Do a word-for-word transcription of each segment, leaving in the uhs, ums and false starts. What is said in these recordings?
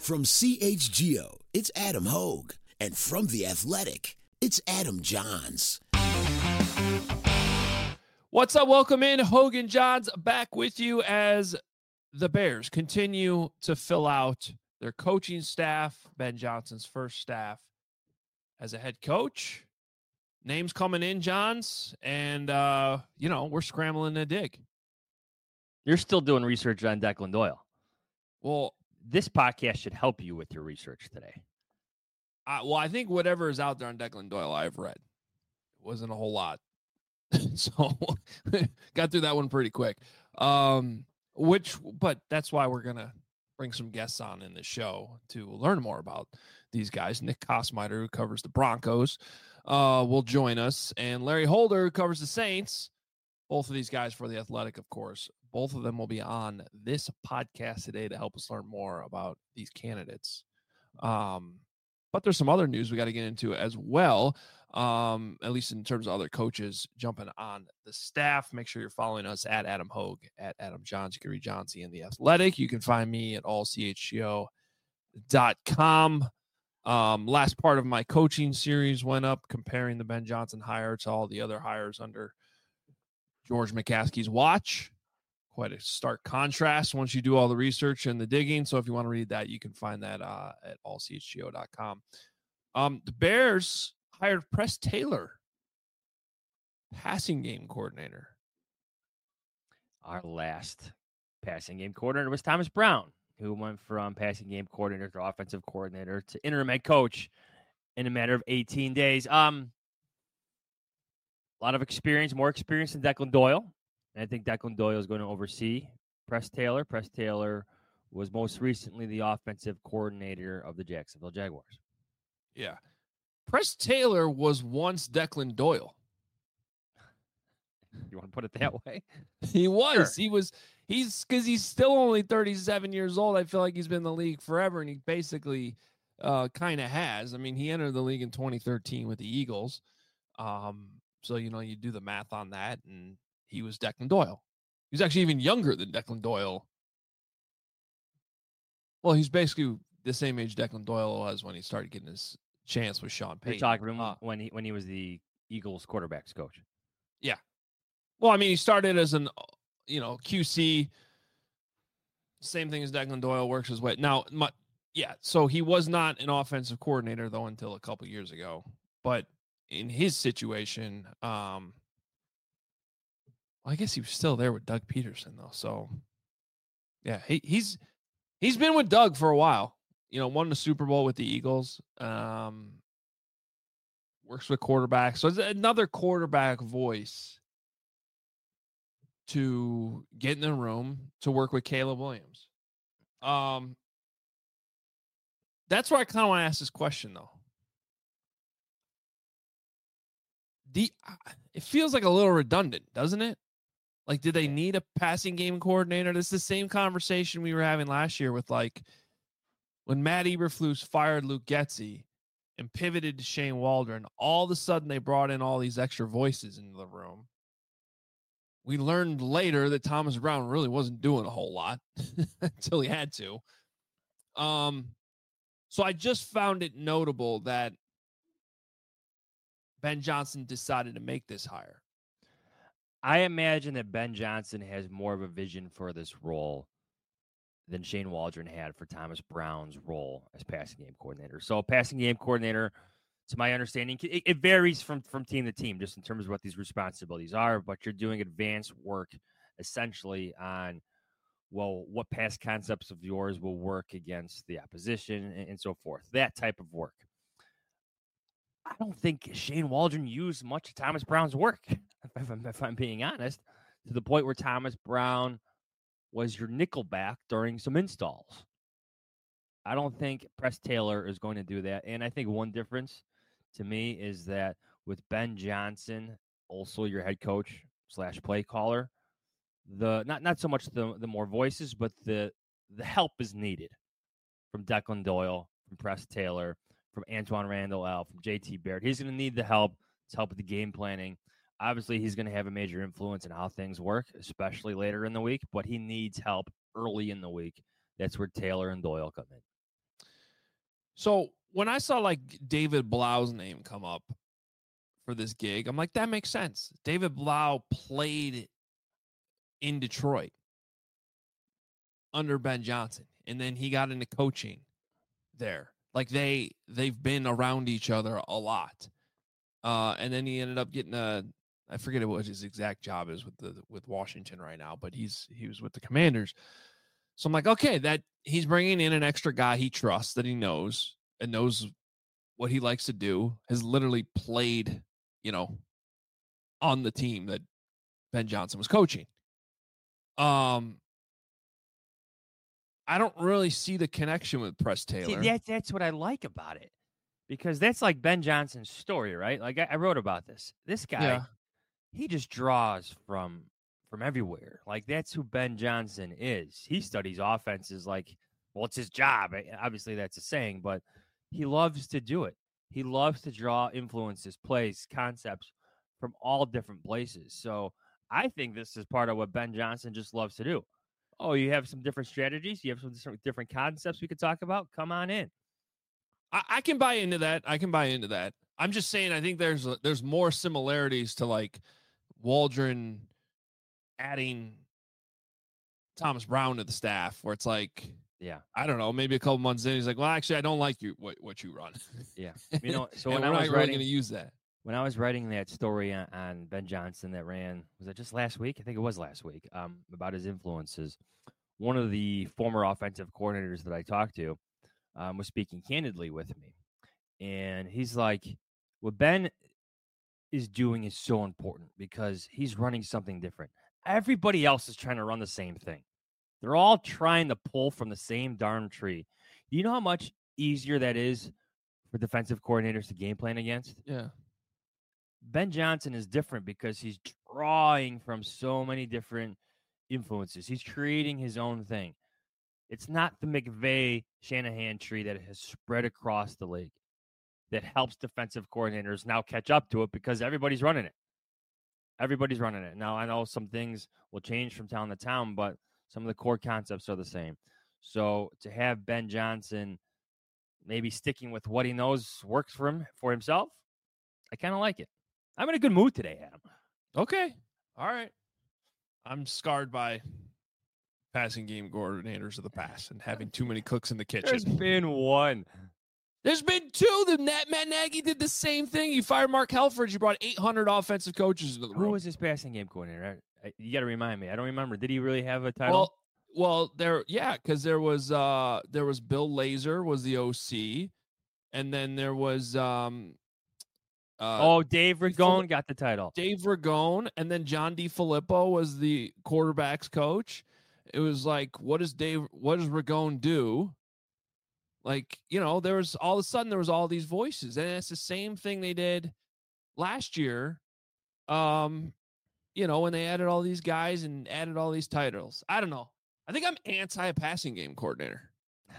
From C H G O, it's Adam Hogue. And from The Athletic, it's Adam Johns. What's up? Welcome in. Hogue and Johns back with you as the Bears continue to fill out their coaching staff. Ben Johnson's first staff as a head coach. Names coming in, Johns, and, uh, you know, we're scrambling to dig. You're still doing research on Declan Doyle. Well, this podcast should help you with your research today. I, well, I think whatever is out there on Declan Doyle, I've read. It wasn't a whole lot. So got through that one pretty quick. Um, which, but that's why we're going to bring some guests on in the show to learn more about these guys. Nick Kosmider, who covers the Broncos, uh, will join us. And Larry Holder, who covers the Saints. Both of these guys for The Athletic, of course. Both of them will be on this podcast today to help us learn more about these candidates. Um, but there's some other news we got to get into as well, um, at least in terms of other coaches jumping on the staff. Make sure you're following us at Adam Hogue, at Adam Johns. You can read Johnsy in The Athletic. You can find me at all c h g o dot com. Um, last part of my coaching series went up comparing the Ben Johnson hire to all the other hires under George McCaskey's watch. Quite a stark contrast once you do all the research and the digging. So if you want to read that, you can find that uh, at all c h g o dot com. Um, the Bears hired Press Taylor, passing game coordinator. Our last passing game coordinator was Thomas Brown, who went from passing game coordinator to offensive coordinator to interim head coach in a matter of eighteen days. Um, a lot of experience, more experience than Declan Doyle. And I think Declan Doyle is going to oversee Press Taylor. Press Taylor was most recently the offensive coordinator of the Jacksonville Jaguars. Yeah. Press Taylor was once Declan Doyle. You want to put it that way? He was. Sure. He was. He's because he's still only thirty-seven years old. I feel like he's been in the league forever, and he basically uh, kind of has. I mean, he entered the league in twenty thirteen with the Eagles. Um, so, you know, you do the math on that, and he was Declan Doyle. He was actually even younger than Declan Doyle. Well, he's basically the same age Declan Doyle was when he started getting his chance with Sean Payton. You're talking about uh, when he when he was the Eagles quarterbacks coach. Yeah. Well, I mean, he started as an, you know, Q C. Same thing as Declan Doyle, works his way. Now, my, yeah, so he was not an offensive coordinator, though, until a couple years ago. But in his situation, um, well, I guess he was still there with Doug Peterson, though. So, yeah, he, he's he's been with Doug for a while. You know, won the Super Bowl with the Eagles. Um, works with quarterbacks. So it's another quarterback voice to get in the room to work with Caleb Williams. Um, that's where I kind of want to ask this question, though. The, it feels like a little redundant, doesn't it? Like, did they need a passing game coordinator? This is the same conversation we were having last year with, like, when Matt Eberflus fired Luke Getsy and pivoted to Shane Waldron, all of a sudden they brought in all these extra voices into the room. We learned later that Thomas Brown really wasn't doing a whole lot until he had to. Um, so I just found it notable that Ben Johnson decided to make this hire. I imagine that Ben Johnson has more of a vision for this role than Shane Waldron had for Thomas Brown's role as passing game coordinator. So passing game coordinator, to my understanding, it, it varies from, from team to team, just in terms of what these responsibilities are, but you're doing advanced work essentially on, well, what past concepts of yours will work against the opposition and, and so forth, that type of work. I don't think Shane Waldron used much of Thomas Brown's work, if I'm, if I'm being honest, to the point where Thomas Brown was your nickelback during some installs. I don't think Press Taylor is going to do that. And I think one difference to me is that with Ben Johnson, also your head coach slash play caller, the not not so much the, the more voices, but the the help is needed from Declan Doyle, from Press Taylor, from Antoine Randall L, from J T Barrett. He's going to need the help to help with the game planning. Obviously, he's going to have a major influence in how things work, especially later in the week, but he needs help early in the week. That's where Taylor and Doyle come in. So when I saw like David Blau's name come up for this gig, I'm like, that makes sense. David Blau played in Detroit under Ben Johnson, and then he got into coaching there. Like they they've been around each other a lot. Uh, and then he ended up getting a I forget what his exact job is with the with Washington right now, but he's he was with the Commanders. So I'm like, okay, that he's bringing in an extra guy he trusts, that he knows and knows what he likes to do, has literally played, you know, on the team that Ben Johnson was coaching. Um, I don't really see the connection with Press Taylor. See, that's that's what I like about it, because that's like Ben Johnson's story, right? Like I, I wrote about this. This guy, Yeah. he just draws from from everywhere. Like that's who Ben Johnson is. He studies offenses like, well, it's his job. Obviously, that's a saying, but he loves to do it. He loves to draw influences, plays, concepts from all different places. So I think this is part of what Ben Johnson just loves to do. Oh, you have some different strategies? You have some different concepts we could talk about? Come on in. I, I can buy into that. I can buy into that. I'm just saying, I think there's a, there's more similarities to like Waldron adding Thomas Brown to the staff, where it's like, yeah, I don't know, maybe a couple months in, he's like, well, actually, I don't like you what, what you run. Yeah, you know, so when when I was really writing, going to use that, when I was writing that story on, on Ben Johnson that ran, was it just last week? I think it was last week. Um, about his influences. One of the former offensive coordinators that I talked to um, was speaking candidly with me, and he's like, what Ben is doing is so important because he's running something different. Everybody else is trying to run the same thing. They're all trying to pull from the same darn tree. You know how much easier that is for defensive coordinators to game plan against? Yeah. Ben Johnson is different because he's drawing from so many different influences. He's creating his own thing. It's not the McVay Shanahan tree that has spread across the league that helps defensive coordinators now catch up to it because everybody's running it. Everybody's running it. Now, I know some things will change from town to town, but some of the core concepts are the same. So to have Ben Johnson maybe sticking with what he knows works for him, for himself, I kind of like it. I'm in a good mood today, Adam. Okay. All right. I'm scarred by passing game coordinators of the past and having too many cooks in the kitchen. There's been one. There's been two. The Matt Nagy did the same thing. He fired Mark Helfrich. He brought eight hundred offensive coaches into the room. Who was his passing game coordinator? I, I, you got to remind me. I don't remember. Did he really have a title? Well, well, there, yeah, because there was uh, there was Bill Lazor was the O C, and then there was um, uh, oh, Dave Ragone got the title. Dave Ragone, and then John DeFilippo was the quarterbacks coach. It was like, what does Dave? What does Ragone do? Like, you know, there was all of a sudden there was all these voices, and it's the same thing they did last year. Um, you know, when they added all these guys and added all these titles. I don't know. I think I'm anti passing game coordinator.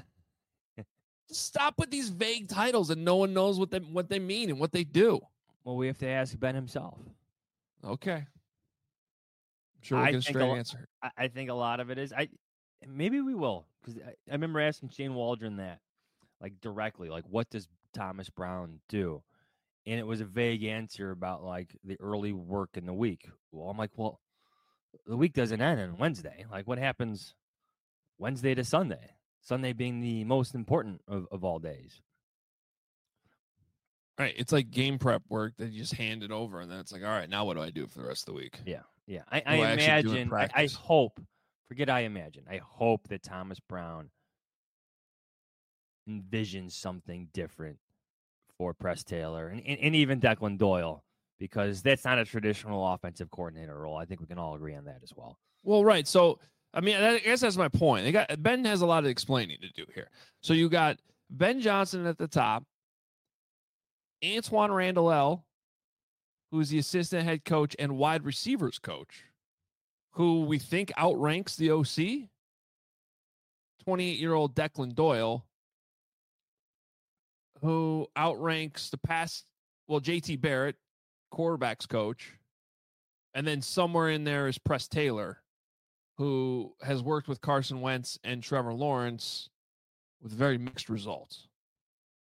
Just stop with these vague titles and no one knows what they what they mean and what they do. Well, we have to ask Ben himself. Okay. I'm sure we'll get a straight answer. I, I think a lot of it is I maybe we will, because I, I remember asking Shane Waldron that, like directly, like what does Thomas Brown do? And it was a vague answer about like the early work in the week. Well, I'm like, well, the week doesn't end on Wednesday. Like what happens Wednesday to Sunday? Sunday being the most important of, of all days. Right. It's like game prep work that you just hand it over, and then it's like, all right, now what do I do for the rest of the week? Yeah. Yeah. I, I imagine, I, I hope, forget I imagine, I hope that Thomas Brown envisions something different for Press Taylor and, and, and even Declan Doyle, because that's not a traditional offensive coordinator role. I think we can all agree on that as well. Well, right. So, I mean, I guess that's my point. They got Ben has a lot of explaining to do here. So you got Ben Johnson at the top, Antoine Randall, who's the assistant head coach and wide receivers coach, who we think outranks the O C, twenty-eight-year-old Declan Doyle, who outranks the past, well, J T Barrett, quarterbacks coach, and then somewhere in there is Press Taylor, who has worked with Carson Wentz and Trevor Lawrence with very mixed results.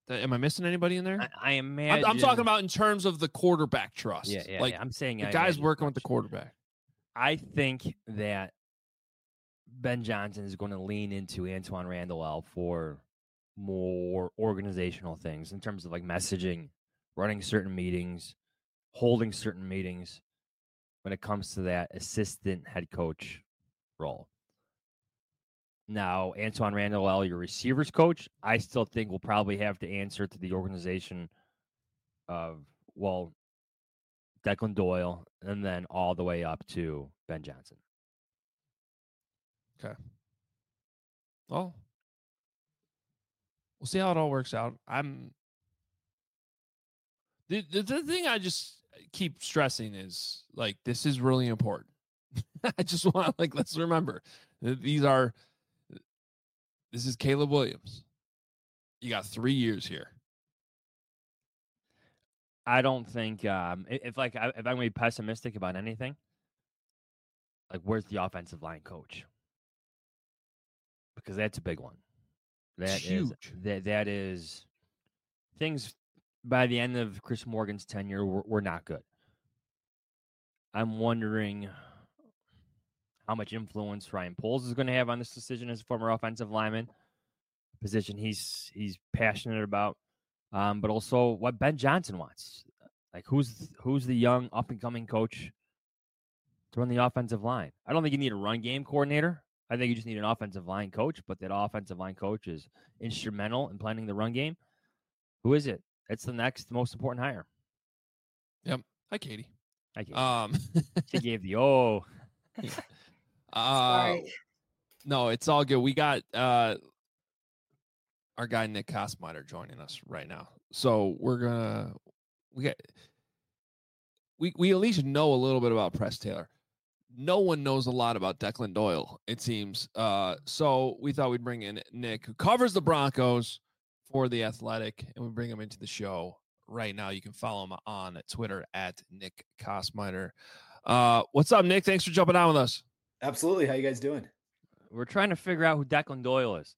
Am I missing anybody in there? I, I imagine. I'm, I'm talking about in terms of the quarterback trust. Yeah, yeah, like yeah. I'm saying the I guys working coach. with the quarterback. I think that Ben Johnson is going to lean into Antoine Randall for more organizational things in terms of like messaging, running certain meetings, holding certain meetings when it comes to that assistant head coach role. Now, Antoine Randall, your receivers coach, I still think will probably have to answer to the organization of, well, Declan Doyle, and then all the way up to Ben Johnson. Okay. Well, we'll see how it all works out. I'm the, the, the thing I just keep stressing is like, this is really important. I just want like, let's remember these are, this is Caleb Williams. You got three years here. I don't think um, if like if I'm gonna be pessimistic about anything, like where's the offensive line coach? Because that's a big one. That it's huge. Is, that that is things by the end of Chris Morgan's tenure were, were not good. I'm wondering how much influence Ryan Poles is going to have on this decision as a former offensive lineman, position he's he's passionate about, um, but also what Ben Johnson wants. Like who's who's the young up and coming coach to run the offensive line? I don't think you need a run game coordinator. I think you just need an offensive line coach, but that offensive line coach is instrumental in planning the run game. Who is it? It's the next most important hire. Yep. Hi, Katie. Hi, Katie. Um, she gave the oh. uh, Sorry. No, it's all good. We got uh, our guy Nick Kosmider joining us right now, so we're gonna we get we we at least know a little bit about Press Taylor. No one knows a lot about Declan Doyle, it seems. Uh, so we thought we'd bring in Nick, who covers the Broncos for The Athletic, and we bring him into the show right now. You can follow him on Twitter at Nick Kosmider. Uh, what's up, Nick? Thanks for jumping on with us. Absolutely. How you guys doing? We're trying to figure out who Declan Doyle is.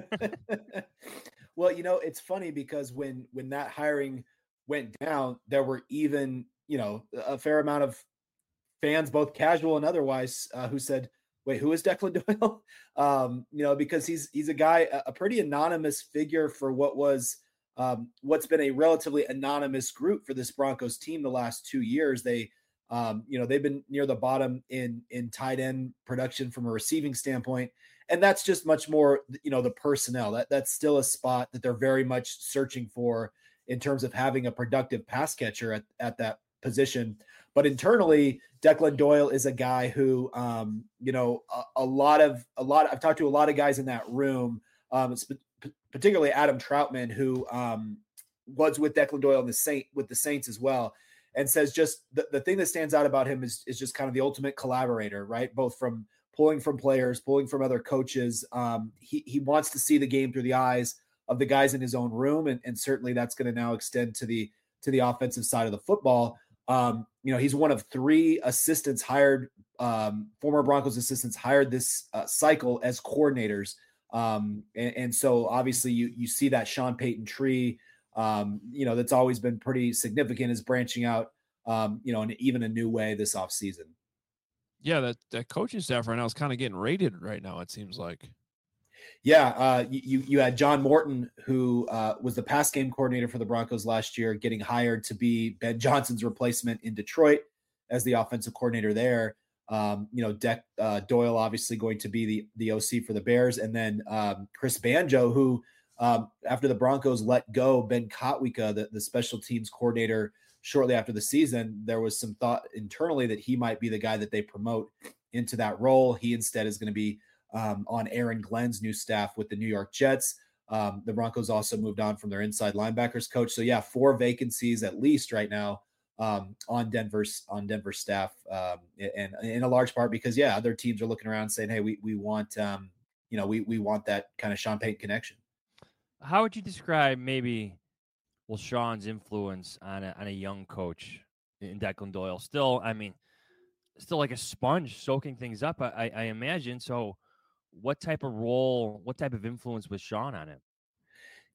Well, you know, it's funny because when when that hiring went down, there were even, you know, a fair amount of fans, both casual and otherwise, uh, who said, wait, who is Declan Doyle? um, you know, because he's he's a guy, a pretty anonymous figure for what was um, what's been a relatively anonymous group for this Broncos team the last two years. They Um, you know, they've been near the bottom in in tight end production from a receiving standpoint. And that's just much more, you know, the personnel. That that's still a spot that they're very much searching for in terms of having a productive pass catcher at, at that position. But internally, Declan Doyle is a guy who, um, you know, a, a lot of a lot. I've talked to a lot of guys in that room, um, particularly Adam Troutman, who um, was with Declan Doyle in the Saint with the Saints as well. And says just the, the thing that stands out about him is, is just kind of the ultimate collaborator, right? Both from pulling from players, pulling from other coaches. Um, he, he wants to see the game through the eyes of the guys in his own room. And, and certainly that's going to now extend to the, to the offensive side of the football. Um, you know, he's one of three assistants hired, um, former Broncos assistants hired this uh, cycle as coordinators. Um, and, and so obviously you, you see that Sean Payton tree, Um, you know, that's always been pretty significant, is branching out, um, you know, in even a new way this offseason. Yeah, that, that coaching staff right now is kind of getting rated right now, it seems like. Yeah, uh, you you had John Morton, who uh, was the pass game coordinator for the Broncos last year, getting hired to be Ben Johnson's replacement in Detroit as the offensive coordinator there. Um, you know, De- uh, Doyle obviously going to be the, the O C for the Bears. And then um, Chris Banjo, who um, after the Broncos let go Ben Kotwica, the, the special teams coordinator, shortly after the season, there was some thought internally that he might be the guy that they promote into that role. He instead is going to be um, on Aaron Glenn's new staff with the New York Jets. Um, the Broncos also moved on from their inside linebackers coach. So yeah, four vacancies at least right now um, on Denver's on Denver staff, um, and, and in a large part because yeah, other teams are looking around saying, hey, we we want um, you know we we want that kind of Sean Payton connection. How would you describe maybe, well, Sean's influence on a on a young coach in Declan Doyle? Still, I mean, still like a sponge soaking things up, I, I imagine. So what type of role, what type of influence was Sean on him?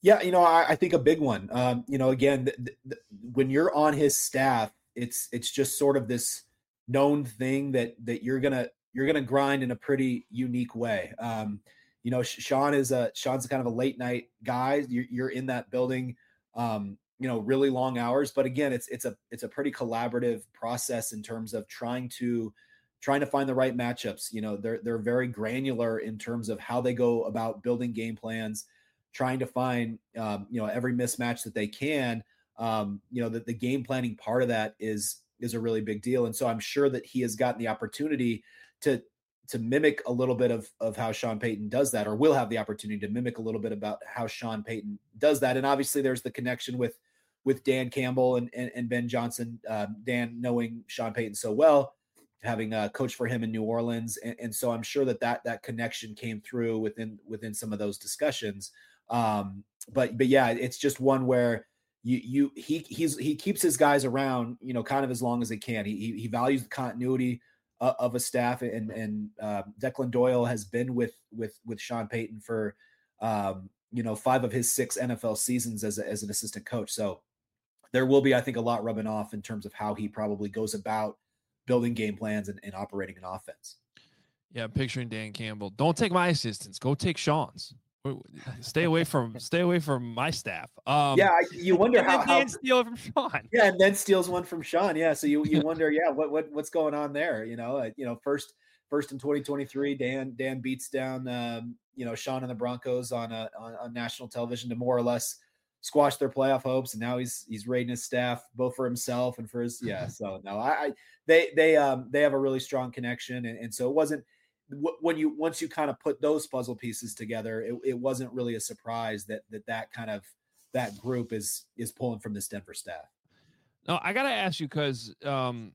Yeah, you know, I, I think a big one. Um, you know, again, th- th- th- when you're on his staff, it's it's just sort of this known thing that that you're gonna you're gonna grind in a pretty unique way. Um, you know, Sean is a Sean's kind of a late night guy. You're, you're in that building, um, you know, really long hours. But again, it's it's a it's a pretty collaborative process in terms of trying to trying to find the right matchups. You know, they're they're very granular in terms of how they go about building game plans, trying to find um, you know every mismatch that they can. Um, you know that the game planning part of that is is a really big deal, and so I'm sure that he has gotten the opportunity to to mimic a little bit of of how Sean Payton does that, or will have the opportunity to mimic a little bit about how Sean Payton does that. And obviously, there's the connection with with Dan Campbell and and, and Ben Johnson. Uh, Dan knowing Sean Payton so well, having a coach for him in New Orleans, and, and so I'm sure that that that connection came through within within some of those discussions. Um, but but yeah, it's just one where you you he he's he keeps his guys around, you know, kind of as long as they can. He he, he values the continuity uh, of a staff, and and uh, Declan Doyle has been with with with Sean Payton for um, you know five of his six N F L seasons as a, as an assistant coach. So there will be, I think, a lot rubbing off in terms of how he probably goes about building game plans and, and operating an offense. Yeah, I'm picturing Dan Campbell. Don't take my assistants. Go take Sean's. Stay away from stay away from my staff. Um, yeah, you wonder how, how Dan steal from Sean. Yeah, and then steals one from Sean. Yeah, so you you wonder, yeah, what what what's going on there? You know, uh, you know, first first in twenty twenty-three, Dan Dan beats down um, you know Sean and the Broncos on a on, on national television to more or less squash their playoff hopes, and now he's he's raiding his staff both for himself and for his yeah. So no, I, I they they um they have a really strong connection, and, and so it wasn't when you once you kind of put those puzzle pieces together, it, it wasn't really a surprise that that that kind of that group is is pulling from this Denver staff. No, I gotta ask you because um,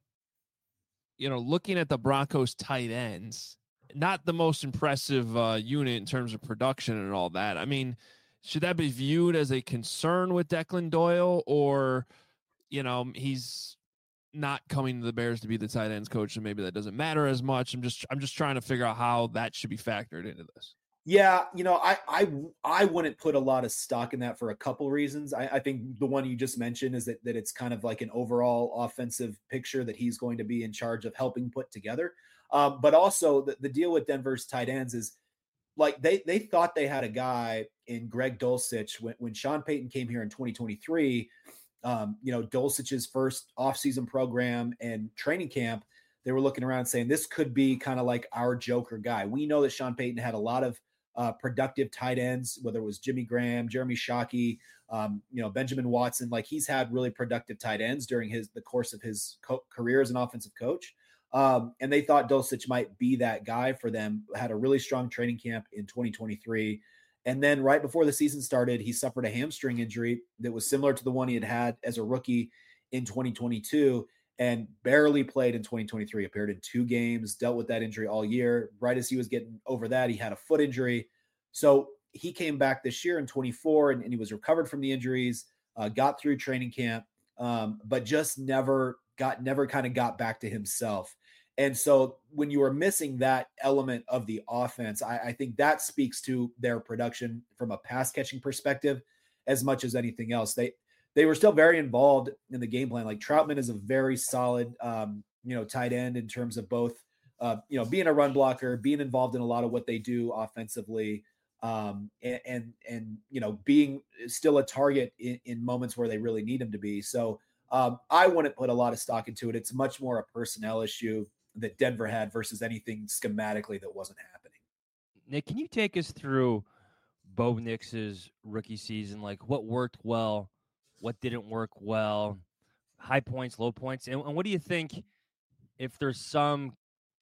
you know, looking at the Broncos tight ends, not the most impressive uh, unit in terms of production and all that. I mean, should that be viewed as a concern with Declan Doyle, or you know, he's not coming to the Bears to be the tight ends coach, and maybe that doesn't matter as much? I'm just I'm just trying to figure out how that should be factored into this. Yeah, you know, I I I wouldn't put a lot of stock in that for a couple reasons. I, I think the one you just mentioned is that that it's kind of like an overall offensive picture that he's going to be in charge of helping put together. Um, but also the, the deal with Denver's tight ends is like they they thought they had a guy in Greg Dulcich when, when Sean Payton came here in twenty twenty-three. Um, you know, Dulcich's first offseason program and training camp, they were looking around saying this could be kind of like our joker guy. We know that Sean Payton had a lot of uh, productive tight ends, whether it was Jimmy Graham, Jeremy Shockey, um, you know, Benjamin Watson. Like he's had really productive tight ends during his the course of his co- career as an offensive coach. Um, and they thought Dulcich might be that guy for them. Had a really strong training camp in twenty twenty-three. And then right before the season started, he suffered a hamstring injury that was similar to the one he had had as a rookie in twenty twenty-two and barely played in twenty twenty-three, appeared in two games, dealt with that injury all year. Right as he was getting over that, he had a foot injury. So he came back this year in twenty-four and, and he was recovered from the injuries, uh, got through training camp, um, but just never got, never kind of got back to himself. And so when you are missing that element of the offense, I, I think that speaks to their production from a pass catching perspective as much as anything else. They they were still very involved in the game plan. Like Troutman is a very solid, um, you know, tight end in terms of both, uh, you know, being a run blocker, being involved in a lot of what they do offensively, um, and, and and you know, being still a target in, in moments where they really need him to be. So um, I wouldn't put a lot of stock into it. It's much more a personnel issue that Denver had versus anything schematically that wasn't happening. Nick, can you take us through Bo Nix's rookie season? Like what worked well, what didn't work well, high points, low points, and, and what do you think if there's some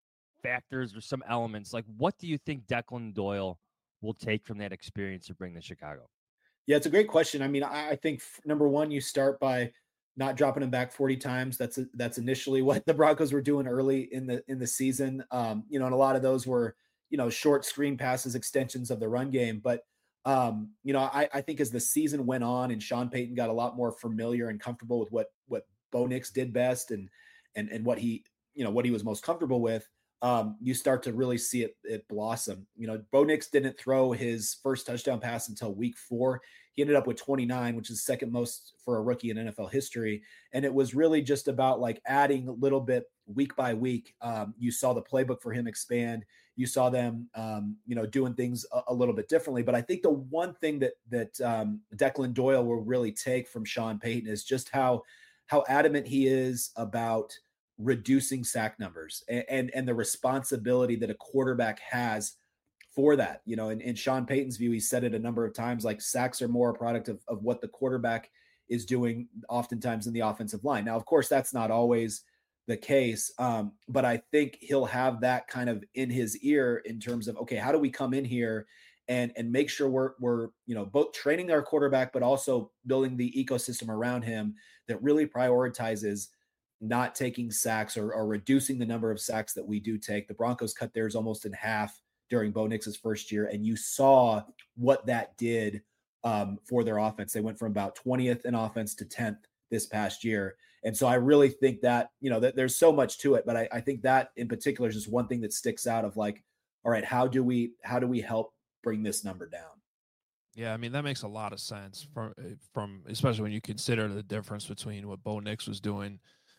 factors or some elements, like what do you think Declan Doyle will take from that experience to bring to Chicago? Yeah, it's a great question. I mean, I, I think number one, you start by not dropping him back forty times. That's a, that's initially what the Broncos were doing early in the in the season. Um, you know, and a lot of those were, you know, short screen passes, extensions of the run game. But um, you know, I, I think as the season went on and Sean Payton got a lot more familiar and comfortable with what what Bo Nix did best and and and what he, you know, what he was most comfortable with, um, you start to really see it, it blossom. You know, Bo Nix didn't throw his first touchdown pass until week four. He ended up with twenty-nine, which is second most for a rookie in N F L history. And it was really just about like adding a little bit week by week. Um, you saw the playbook for him expand. You saw them, um, you know, doing things a, a little bit differently. But I think the one thing that that um, Declan Doyle will really take from Sean Payton is just how how adamant he is about reducing sack numbers and, and, and the responsibility that a quarterback has for that. You know, in, in Sean Payton's view, he said it a number of times, like sacks are more a product of, of what the quarterback is doing oftentimes in the offensive line. Now, of course, that's not always the case. Um, but I think he'll have that kind of in his ear in terms of, okay, how do we come in here and, and make sure we're, we're, you know, both training our quarterback, but also building the ecosystem around him that really prioritizes not taking sacks or, or reducing the number of sacks that we do take. The Broncos cut theirs almost in half during Bo Nix's first year. And you saw what that did um, for their offense. They went from about twentieth in offense to tenth this past year. And so I really think that, you know, that there's so much to it, but I, I think that in particular is just one thing that sticks out of like, all right, how do we, how do we help bring this number down? Yeah, I mean, that makes a lot of sense from, from especially when you consider the difference between what Bo Nix was doing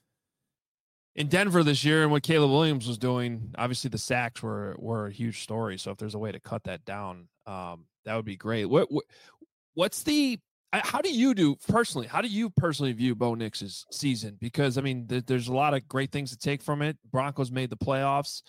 in Denver this year and what Caleb Williams was doing. Obviously the sacks were, were a huge story. So if there's a way to cut that down, um, that would be great. What, what what's the, how do you do personally, how do you personally view Bo Nix's season? Because I mean, th- there's a lot of great things to take from it. Broncos made the playoffs.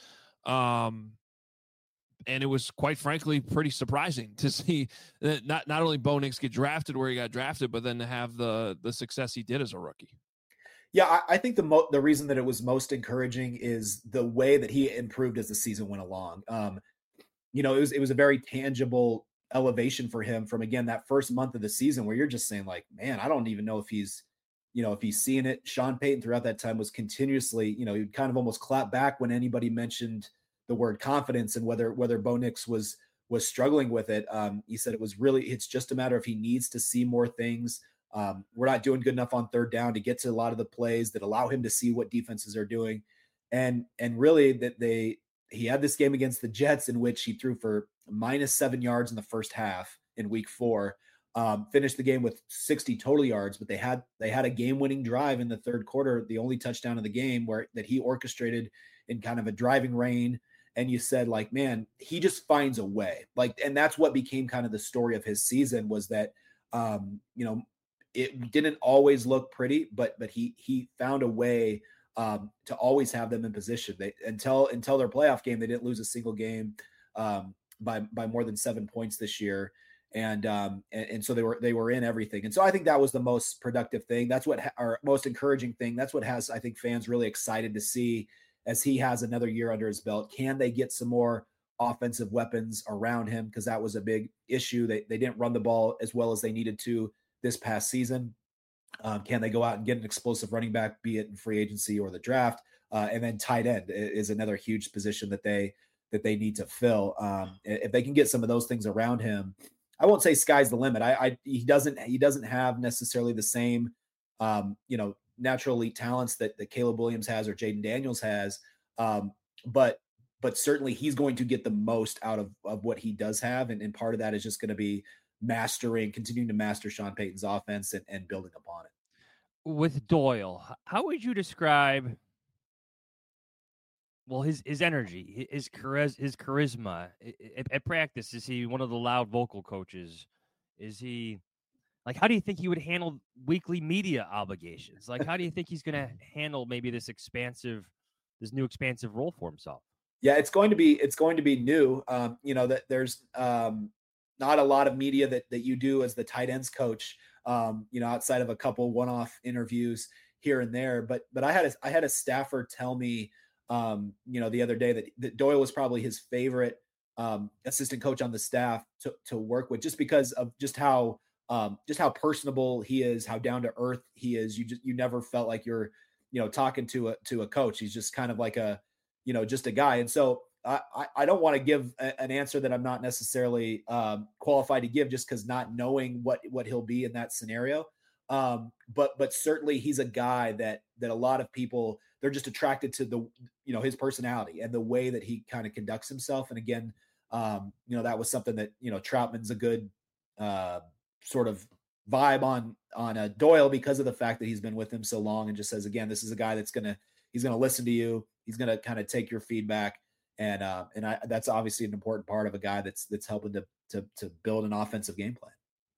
Um, and it was quite frankly, pretty surprising to see that not, not only Bo Nix get drafted where he got drafted, but then to have the, the success he did as a rookie. Yeah, I, I think the mo- the reason that it was most encouraging is the way that he improved as the season went along. Um, you know, it was it was a very tangible elevation for him from, again, that first month of the season where you're just saying like, man, I don't even know if he's, you know, if he's seeing it. Sean Payton throughout that time was continuously, you know, he'd kind of almost clap back when anybody mentioned the word confidence and whether whether Bo Nix was was struggling with it. Um, he said it was really, it's just a matter of he needs to see more things. Um, we're not doing good enough on third down to get to a lot of the plays that allow him to see what defenses are doing. And, and really that they, he had this game against the Jets in which he threw for minus seven yards in the first half in week four, um, finished the game with sixty total yards, but they had, they had a game winning drive in the third quarter, the only touchdown of the game where that he orchestrated in kind of a driving rain. And you said like, man, he just finds a way, like, and that's what became kind of the story of his season was that, um, you know, it didn't always look pretty, but but he he found a way um, to always have them in position. They until until their playoff game, they didn't lose a single game um, by by more than seven points this year, and, um, and and so they were they were in everything. And so I think that was the most productive thing. That's what ha- our most encouraging thing. That's what has I think fans really excited to see as he has another year under his belt. Can they get some more offensive weapons around him? Because that was a big issue. They they didn't run the ball as well as they needed to this past season. Um, can they go out and get an explosive running back, be it in free agency or the draft? Uh, and then tight end is another huge position that they that they need to fill. Um, if they can get some of those things around him, I won't say sky's the limit. I, I he doesn't he doesn't have necessarily the same um, you know natural elite talents that, that Caleb Williams has or Jaden Daniels has, um, but but certainly he's going to get the most out of of what he does have, and, and part of that is just going to be mastering, continuing to master Sean Payton's offense and, and building upon it. With Doyle, how would you describe, well, his his energy, his chariz- his charisma at, at practice? Is he one of the loud vocal coaches? Is he like, how do you think he would handle weekly media obligations? Like, how do you think he's going to handle maybe this expansive, this new expansive role for himself? Yeah, it's going to be it's going to be new. Um, you know that there's um, not a lot of media that that you do as the tight ends coach. Um, you know, outside of a couple one-off interviews here and there. But but I had a, I had a staffer tell me, um, you know, the other day that, that Doyle was probably his favorite um, assistant coach on the staff to to work with, just because of just how um, just how personable he is, how down to earth he is. You just you never felt like you're you know talking to a to a coach. He's just kind of like a you know just a guy. And so I, I don't want to give a, an answer that I'm not necessarily um, qualified to give just because not knowing what, what he'll be in that scenario. Um, but, but certainly he's a guy that, that a lot of people they're just attracted to the, you know, his personality and the way that he kind of conducts himself. And again, um, you know, that was something that, you know, Troutman's a good uh, sort of vibe on, on a Doyle because of the fact that he's been with him so long, and just says, again, this is a guy that's going to, he's going to listen to you. He's going to kind of take your feedback. And, uh, and I, that's obviously an important part of a guy that's, that's helping to, to, to build an offensive game plan.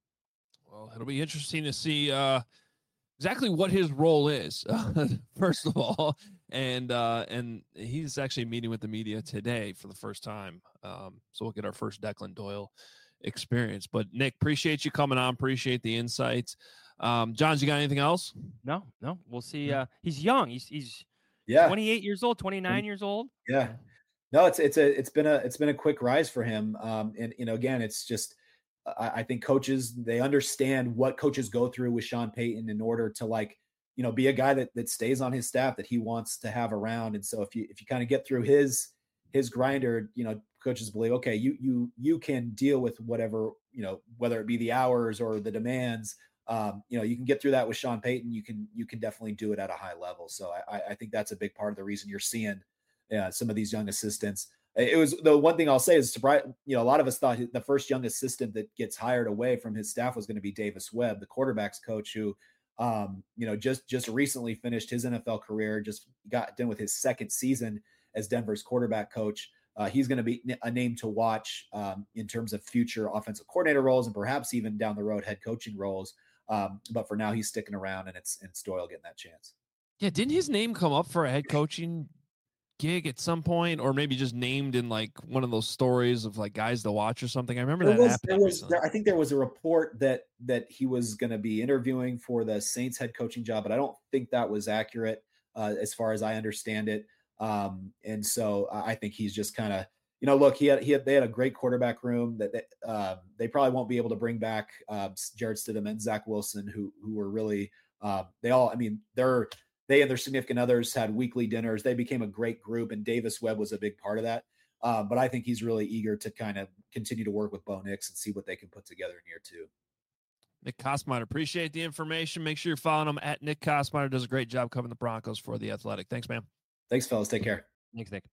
Well, it'll be interesting to see, uh, exactly what his role is, uh, first of all, and uh, and he's actually meeting with the media today for the first time. Um, so we'll get our first Declan Doyle experience. But Nick, appreciate you coming on. Appreciate the insights. Um, Johns, you got anything else? No, no. We'll see. Uh, he's young. He's he's yeah, twenty-eight years old, twenty-nine years old. Yeah, no, it's it's a it's been a it's been a quick rise for him. Um, and you know, again, it's just. I think coaches, they understand what coaches go through with Sean Payton in order to, like, you know, be a guy that, that stays on his staff that he wants to have around. And so if you, if you kind of get through his, his grinder, you know, coaches believe, okay, you, you, you can deal with whatever, you know, whether it be the hours or the demands, um, you know, you can get through that with Sean Payton. You can, you can definitely do it at a high level. So I, I think that's a big part of the reason you're seeing uh, some of these young assistants. It was the one thing I'll say is, surprise, you know, a lot of us thought the first young assistant that gets hired away from his staff was going to be Davis Webb, the quarterback's coach, who, um, you know, just just recently finished his N F L career, just got done with his second season as Denver's quarterback coach. Uh, he's going to be a name to watch um, in terms of future offensive coordinator roles and perhaps even down the road head coaching roles. Um, but for now, he's sticking around, and it's and it's Doyle getting that chance. Yeah, didn't his name come up for a head coaching gig at some point, or maybe just named in like one of those stories of like guys to watch or something? I remember there that was, happening. There was, there, I think there was a report that that he was going to be interviewing for the Saints head coaching job, but I don't think that was accurate uh, as far as I understand it. Um, and so I think he's just kind of, you know, look, he had he had they had a great quarterback room that they, uh, they probably won't be able to bring back uh, Jarrett Stidham and Zach Wilson, who who were really uh, they all. I mean, they're. They and their significant others had weekly dinners. They became a great group, and Davis Webb was a big part of that. Um, but I think he's really eager to kind of continue to work with Bo Nix and see what they can put together in year two. Nick Kosmider, appreciate the information. Make sure you're following him at Nick Kosmider. Does a great job covering the Broncos for The Athletic. Thanks, man. Thanks, fellas. Take care. Thanks, Nick.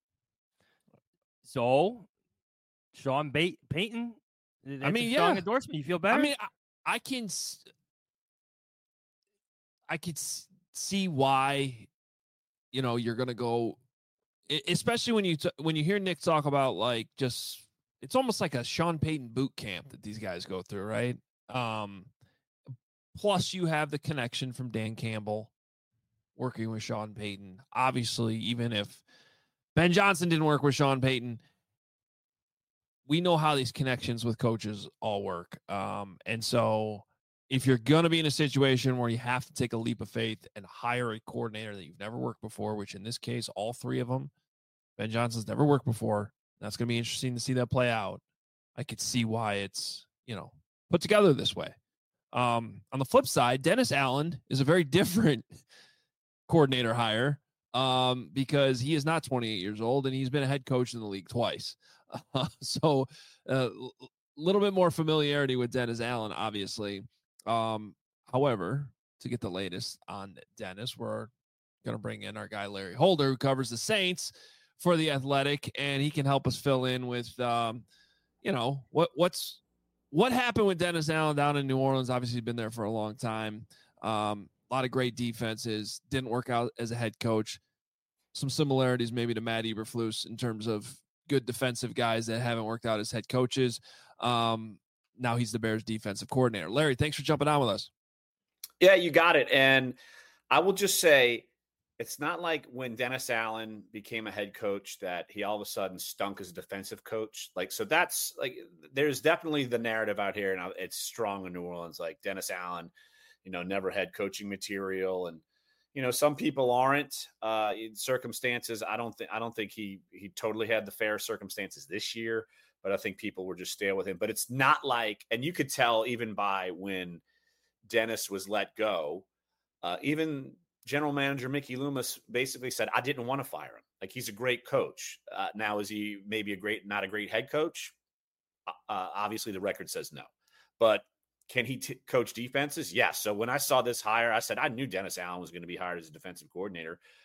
So, Sean Bait- Payton, that's I mean, a strong yeah. endorsement. You feel better? I mean, I, I can, I could see why, you know, you're going to go, especially when you, t- when you hear Nick talk about like, just, it's almost like a Sean Payton boot camp that these guys go through. Right. Um, plus you have the connection from Dan Campbell working with Sean Payton. Obviously, even if Ben Johnson didn't work with Sean Payton, we know how these connections with coaches all work. Um, and so if you're going to be in a situation where you have to take a leap of faith and hire a coordinator that you've never worked before, which in this case, all three of them, Ben Johnson's never worked before. That's going to be interesting to see that play out. I could see why it's, you know, put together this way. Um, on the flip side, Dennis Allen is a very different coordinator hire um, because he is not twenty-eight years old and he's been a head coach in the league twice. Uh, so a uh, little bit more familiarity with Dennis Allen, obviously. Um, however, to get the latest on Dennis, we're going to bring in our guy, Larry Holder, who covers the Saints for The Athletic, and he can help us fill in with, um, you know, what, what's, what happened with Dennis Allen down in New Orleans. Obviously been there for a long time. Um, a lot of great defenses, didn't work out as a head coach. Some similarities maybe to Matt Eberflus in terms of good defensive guys that haven't worked out as head coaches. Um, Now he's the Bears defensive coordinator. Larry, thanks for jumping on with us. Yeah, you got it. And I will just say, it's not like when Dennis Allen became a head coach that he all of a sudden stunk as a defensive coach. Like, so that's like, there's definitely the narrative out here, and it's strong in New Orleans. Like Dennis Allen, you know, never had coaching material, and you know, some people aren't uh, in circumstances. I don't think I don't think he he totally had the fair circumstances this year. But I think people were just stale with him. But it's not like, and you could tell even by when Dennis was let go, uh, even general manager Mickey Loomis basically said, I didn't want to fire him. Like, he's a great coach. Uh, now, is he maybe a great, not a great head coach? Uh, obviously, the record says no. But can he t- coach defenses? Yes. So when I saw this hire, I said, I knew Dennis Allen was going to be hired as a defensive coordinator.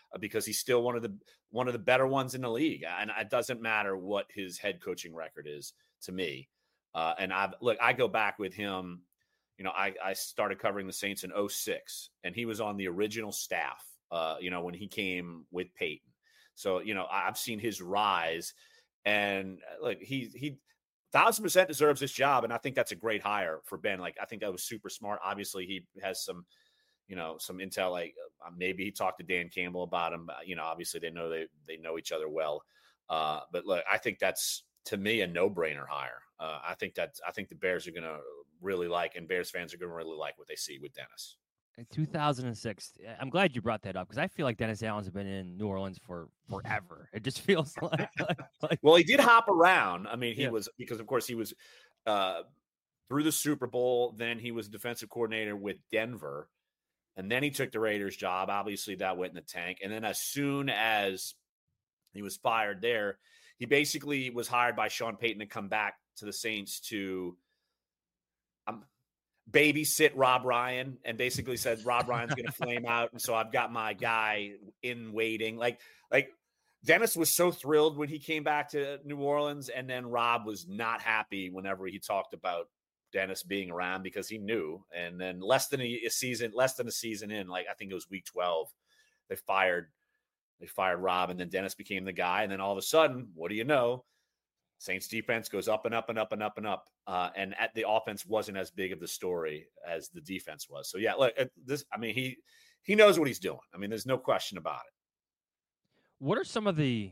uh, because he's still one of the one of the better ones in the league. And it doesn't matter what his head coaching record is to me. Uh, and I've look, I go back with him. You know, I, I started covering the Saints in oh six, and he was on the original staff, uh, you know, when he came with Peyton. So, you know, I've seen his rise, and like he, he thousand percent deserves this job. And I think that's a great hire for Ben. Like, I think that was super smart. Obviously he has some, you know, some intel, like uh, maybe he talked to Dan Campbell about him. You know, obviously they know, they, they know each other well. Uh, but look, I think that's, to me, a no-brainer hire. Uh, I think that, I think the Bears are going to really like, and Bears fans are going to really like what they see with Dennis. In two thousand six, I'm glad you brought that up because I feel like Dennis Allen's been in New Orleans for forever. It just feels like, like, like well, he did hop around. I mean, he yeah. was, because of course he was uh, through the Super Bowl. Then he was defensive coordinator with Denver, and then he took the Raiders job. Obviously that went in the tank. And then as soon as he was fired there, he basically was hired by Sean Payton to come back to the Saints to um, babysit Rob Ryan, and basically said Rob Ryan's going to flame out. And so I've got my guy in waiting. Like, like Dennis was so thrilled when he came back to New Orleans. And then Rob was not happy whenever he talked about Dennis being around, because he knew. And then less than a, a season, less than a season in, like, I think it was week twelve, they fired, they fired Rob, and then Dennis became the guy. And then all of a sudden, what do you know? Saints defense goes up and up and up and up and up. Uh, and at the offense wasn't as big of the story as the defense was. So yeah, look, this, I mean, he, he knows what he's doing. I mean, there's no question about it. What are some of the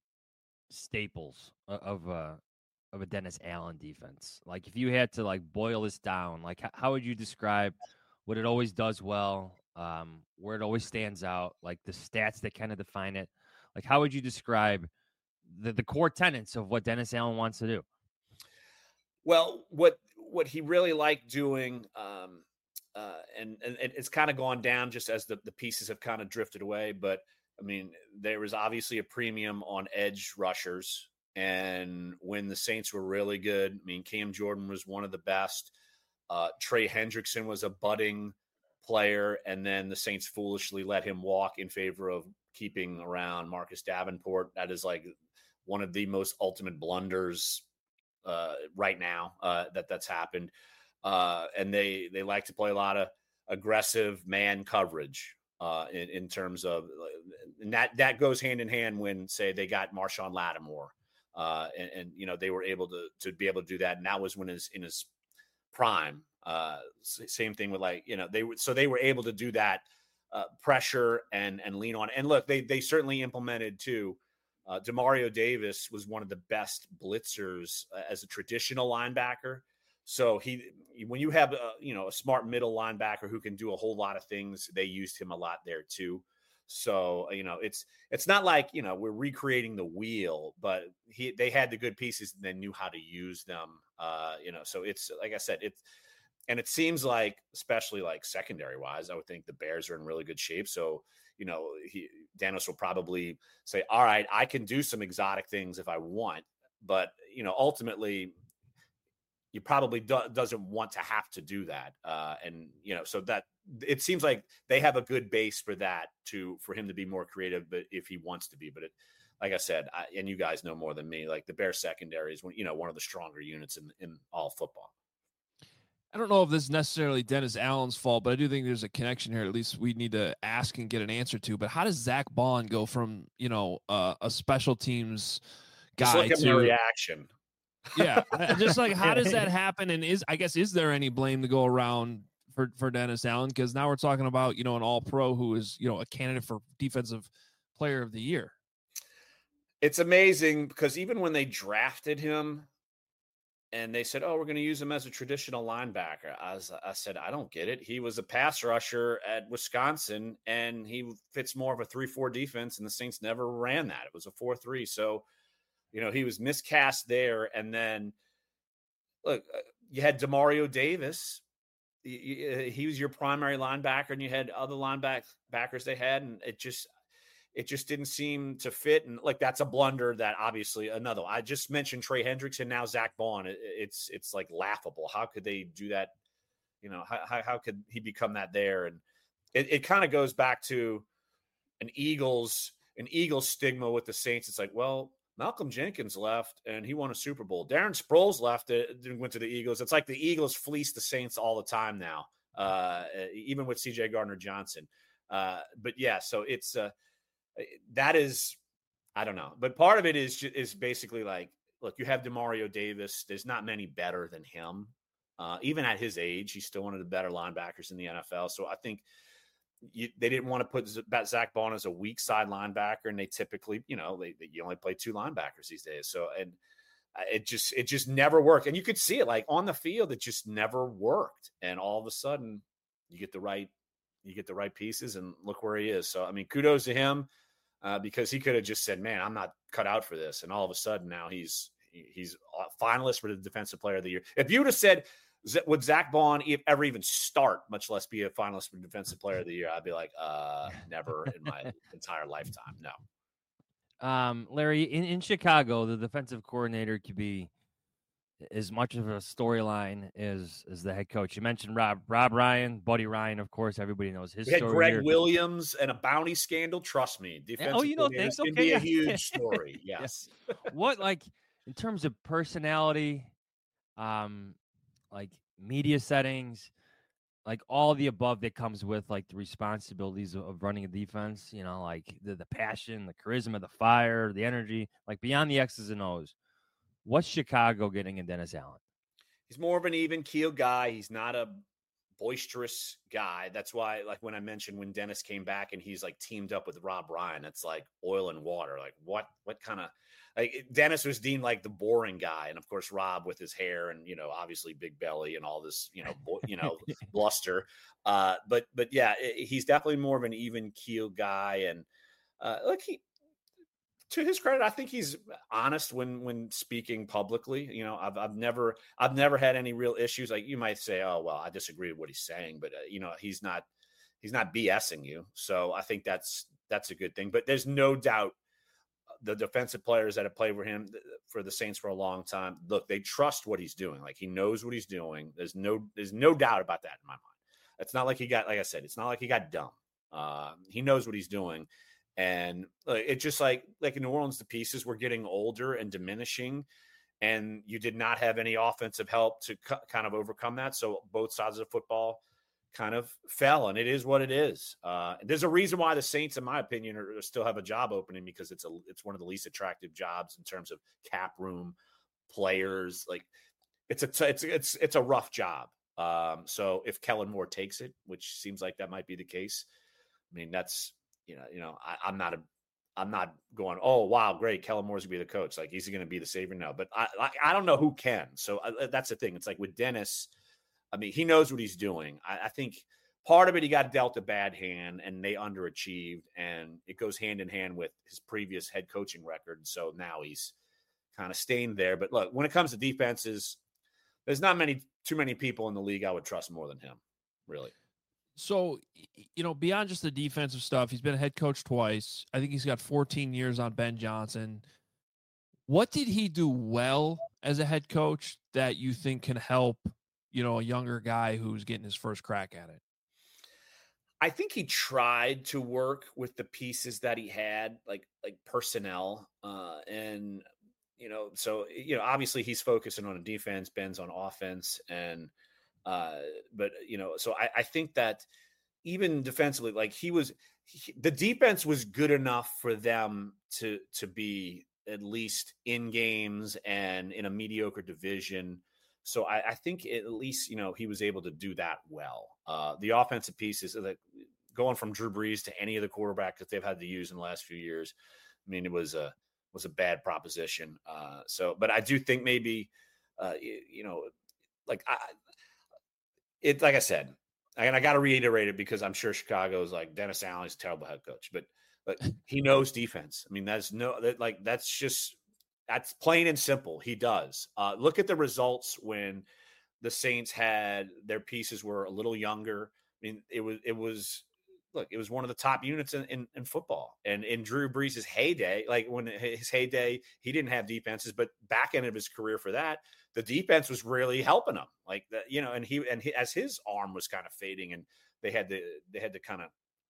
staples of, uh, of a Dennis Allen defense? Like, if you had to like boil this down, like how, how would you describe what it always does well, um, where it always stands out, like the stats that kind of define it? Like, how would you describe the, the core tenets of what Dennis Allen wants to do? Well, what what he really liked doing, um, uh, and, and it's kind of gone down just as the, the pieces have kind of drifted away. But I mean, there was obviously a premium on edge rushers. And when the Saints were really good, I mean, Cam Jordan was one of the best. Uh, Trey Hendrickson was a budding player. And then the Saints foolishly let him walk in favor of keeping around Marcus Davenport. That is like one of the most ultimate blunders uh, right now uh, that that's happened. Uh, and they, they like to play a lot of aggressive man coverage uh, in, in terms of, and that, that goes hand in hand when, say, they got Marshawn Lattimore. Uh, and, and, you know, they were able to, to be able to do that. And that was when his, in his prime, uh, same thing with like, you know, they were, so they were able to do that uh, pressure and, and lean on. And look, they, they certainly implemented too. Uh, Demario Davis was one of the best blitzers uh, as a traditional linebacker. So he, when you have, a, you know, a smart middle linebacker who can do a whole lot of things, they used him a lot there too. So, you know, it's, it's not like, you know, we're recreating the wheel, but he, they had the good pieces and they knew how to use them. Uh, you know, so it's, like I said, it's, and it seems like, especially like secondary wise, I would think the Bears are in really good shape. So, you know, he, Dennis will probably say, all right, I can do some exotic things if I want, but, you know, ultimately he probably do, doesn't want to have to do that. Uh, and, you know, so that it seems like they have a good base for that to, for him to be more creative, but if he wants to be, but it, like I said, I, and you guys know more than me, like the Bears secondary is, you know, one of the stronger units in, in all football. I don't know if this is necessarily Dennis Allen's fault, but I do think there's a connection here. At least we need to ask and get an answer to. But how does Zach Bond go from, you know, uh, a special teams guy just look at to my reaction? Yeah, just like how does that happen? And is I guess is there any blame to go around for for Dennis Allen? Because now we're talking about, you know, an All Pro who is, you know, a candidate for Defensive Player of the Year. It's amazing because even when they drafted him, and they said, oh, we're going to use him as a traditional linebacker. I, was, I said, I don't get it. He was a pass rusher at Wisconsin, and he fits more of a three four defense, and the Saints never ran that. It was a four three. So, you know, he was miscast there. And then, look, you had Demario Davis. He, he was your primary linebacker, and you had other linebackers they had, and it just – It just didn't seem to fit. And like, that's a blunder that obviously another, I just mentioned Trey Hendrickson, now Zach Bond. It, it's, it's like laughable. How could they do that? You know, how, how could he become that there? And it, it kind of goes back to an Eagles an Eagles stigma with the Saints. It's like, well, Malcolm Jenkins left and he won a Super Bowl. Darren Sproles left and went to the Eagles. It's like the Eagles fleece the Saints all the time now, uh, even with C J Gardner-Johnson. Uh, but yeah, so it's uh, that is, I don't know. But part of it is is basically like, look, you have DeMario Davis. There's not many better than him. Uh, even at his age, he's still one of the better linebackers in the N F L. So I think You, they didn't want to put Zach Bond as a weak side linebacker, and they typically, you know, they, they you only play two linebackers these days. So, and it just it just never worked, and you could see it like on the field, it just never worked. And all of a sudden, you get the right you get the right pieces, and look where he is. So, I mean, kudos to him uh, because he could have just said, "Man, I'm not cut out for this," and all of a sudden now he's he's a finalist for the Defensive Player of the Year. If you would have said, would Zach Bond ever even start, much less be a finalist for Defensive Player of the Year? I'd be like, uh, never in my entire lifetime. No. Um, Larry, in, in Chicago, the defensive coordinator could be as much of a storyline as as the head coach. You mentioned Rob Rob Ryan, Buddy Ryan, of course. Everybody knows his we had story. Greg here. Williams and a bounty scandal. Trust me, defensive oh, you know coordinators things. can Okay, be yeah. a huge story. Yes. What, like, in terms of personality, um, like media settings, like all the above that comes with like the responsibilities of, of running a defense, you know, like the, the passion, the charisma, the fire, the energy, like beyond the X's and O's. What's Chicago getting in Dennis Allen? He's more of an even keel guy. He's not a boisterous guy. That's why, like when I mentioned when Dennis came back and he's like teamed up with Rob Ryan, it's like oil and water. Like what, what kind of, like Dennis was deemed like the boring guy. And of course, Rob with his hair and, you know, obviously big belly and all this, you know, bo- you know, bluster. Uh, but, but yeah, it, he's definitely more of an even keel guy. And uh, look, he, to his credit, I think he's honest when when speaking publicly. You know, I've I've never I've never had any real issues. Like you might say, oh well, I disagree with what he's saying, but uh, you know, he's not he's not BSing you. So I think that's that's a good thing. But there's no doubt the defensive players that have played for him for the Saints for a long time, look, they trust what he's doing. Like he knows what he's doing. There's no there's no doubt about that in my mind. It's not like he got, like I said, it's not like he got dumb. Uh, he knows what he's doing. And uh, it's just like, like in New Orleans, the pieces were getting older and diminishing, and you did not have any offensive help to cu- kind of overcome that. So both sides of the football kind of fell, and it is what it is. Uh, there's a reason why the Saints, in my opinion, are, are still have a job opening, because it's a, it's one of the least attractive jobs in terms of cap room, players. Like it's a, it's, it's, it's a rough job. Um, so if Kellen Moore takes it, which seems like that might be the case, I mean, that's, You know, you know, I, I'm not a, I'm not going, oh wow, great, Kellen Moore's gonna be the coach. Like, is he gonna be the savior? No, but I, I, I don't know who can. So I, that's the thing. It's like with Dennis, I mean, he knows what he's doing. I, I think part of it, he got dealt a bad hand, and they underachieved, and it goes hand in hand with his previous head coaching record. So now he's kind of stained there. But look, when it comes to defenses, there's not many, too many people in the league I would trust more than him, really. So, you know, beyond just the defensive stuff, he's been a head coach twice. I think he's got fourteen years on Ben Johnson. What did he do well as a head coach that you think can help, you know, a younger guy who's getting his first crack at it? I think he tried to work with the pieces that he had, like like personnel, uh, and you know, so you know, obviously he's focusing on a defense, Ben's on offense, and uh, but you know, so I, I think that even defensively, like he was, he, the defense was good enough for them to to be at least in games and in a mediocre division. So I, I think at least, you know, he was able to do that well. Uh, the offensive pieces, like going from Drew Brees to any of the quarterbacks that they've had to use in the last few years, I mean, it was a was a bad proposition. Uh, so, but I do think maybe, uh, you, you know, like I, it, like I said, and I got to reiterate it because I'm sure Chicago is like, Dennis Allen is a terrible head coach, but but he knows defense. I mean, that's no, that like that's just. That's plain and simple. He does. Uh, look at the results when the Saints had their pieces were a little younger. I mean, it was, it was, look, it was one of the top units in, in, in football. And in Drew Brees' heyday, like when his heyday, he didn't have defenses, but back end of his career for that, the defense was really helping him. Like that, you know, and he, and he, as his arm was kind of fading and they had to, they had to kind of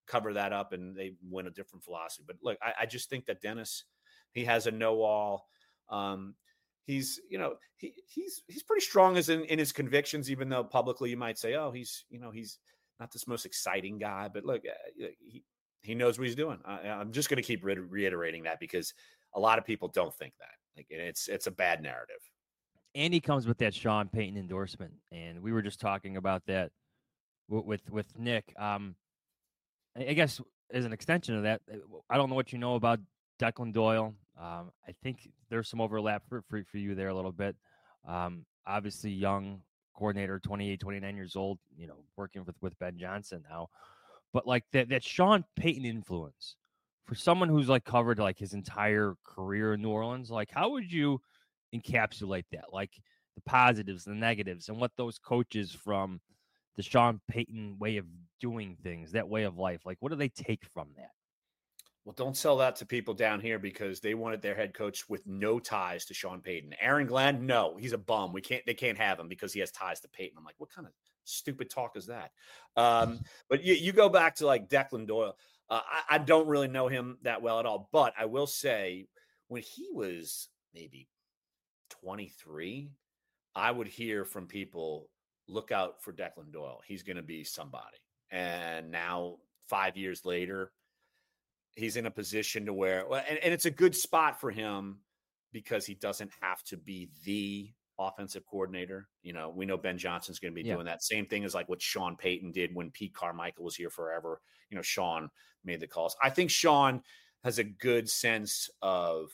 cover that up and they win a different philosophy. But look, I, I just think that Dennis, he has a know-all. Um, he's, you know, he he's he's pretty strong as in, in his convictions, even though publicly you might say, oh, he's, you know, he's not this most exciting guy. But look, uh, he he knows what he's doing. I, I'm just going to keep re- reiterating that because a lot of people don't think that. Like, it's it's a bad narrative. And he comes with that Sean Payton endorsement, and we were just talking about that with with, with Nick. Um, I guess as an extension of that, I don't know what you know about Declan Doyle. Um, I think there's some overlap for, for, for you there a little bit. Um, obviously, young coordinator, twenty-eight, twenty-nine years old, you know, working with, with Ben Johnson now. But like that, that Sean Payton influence for someone who's like covered like his entire career in New Orleans, like how would you encapsulate that? Like the positives, the negatives, and what those coaches from the Sean Payton way of doing things, that way of life, like what do they take from that? Well, don't sell that to people down here because they wanted their head coach with no ties to Sean Payton. Aaron Glenn, no, he's a bum. We can't, they can't have him because he has ties to Payton. I'm like, what kind of stupid talk is that? Um, but you, you go back to like Declan Doyle. Uh, I, I don't really know him that well at all, but I will say when he was maybe twenty-three, I would hear from people, look out for Declan Doyle. He's going to be somebody. And now five years later, he's in a position to where, and, and it's a good spot for him because he doesn't have to be the offensive coordinator. You know, we know Ben Johnson's going to be yeah. doing that. Same thing as like what Sean Payton did when Pete Carmichael was here forever. You know, Sean made the calls. I think Sean has a good sense of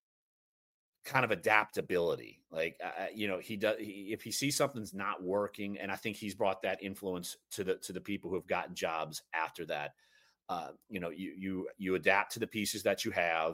kind of adaptability. Like, uh, you know, he does, he, if he sees something's not working, and I think he's brought that influence to the, to the people who have gotten jobs after that. Uh, you know, you, you, you adapt to the pieces that you have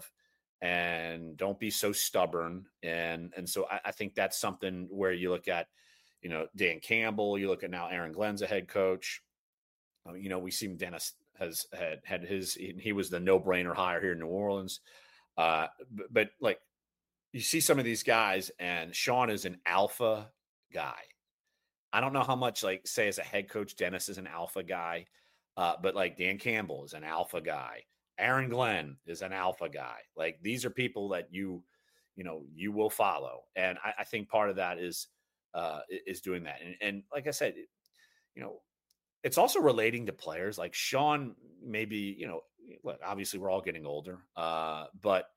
and don't be so stubborn. And, and so I, I think that's something where you look at, you know, Dan Campbell, you look at now Aaron Glenn's a head coach. Uh, you know, we see Dennis has had, had his, he was the no brainer hire here in New Orleans. Uh, but, but like you see some of these guys and Sean is an alpha guy. I don't know how much like say as a head coach, Dennis is an alpha guy. Uh, but like Dan Campbell is an alpha guy. Aaron Glenn is an alpha guy. Like these are people that you, you know, you will follow. And I, I think part of that is, uh, is doing that. And, and like I said, you know, it's also relating to players like Sean, maybe, you know, look, obviously we're all getting older, uh, but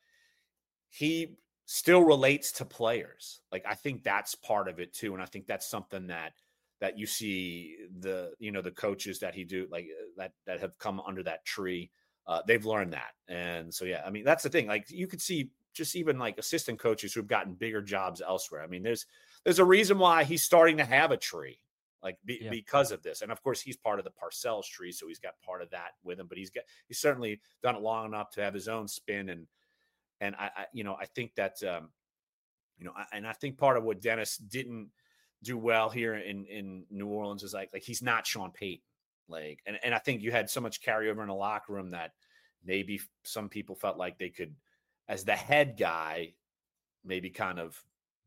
he still relates to players. Like, I think that's part of it too. And I think that's something that, that you see the, you know, the coaches that he do like that, that have come under that tree. Uh, they've learned that. And so, yeah, I mean, that's the thing. Like you could see just even like assistant coaches who've gotten bigger jobs elsewhere. I mean, there's, there's a reason why he's starting to have a tree, like be, yeah. because of this. And of course he's part of the Parcells tree. So he's got part of that with him, but he's got, he's certainly done it long enough to have his own spin. And, and I, I you know, I think that, um, you know, I, and I think part of what Dennis didn't do well here in, in New Orleans is like, like he's not Sean Payton. Like, and, and I think you had so much carryover in the locker room that maybe some people felt like they could, as the head guy, maybe kind of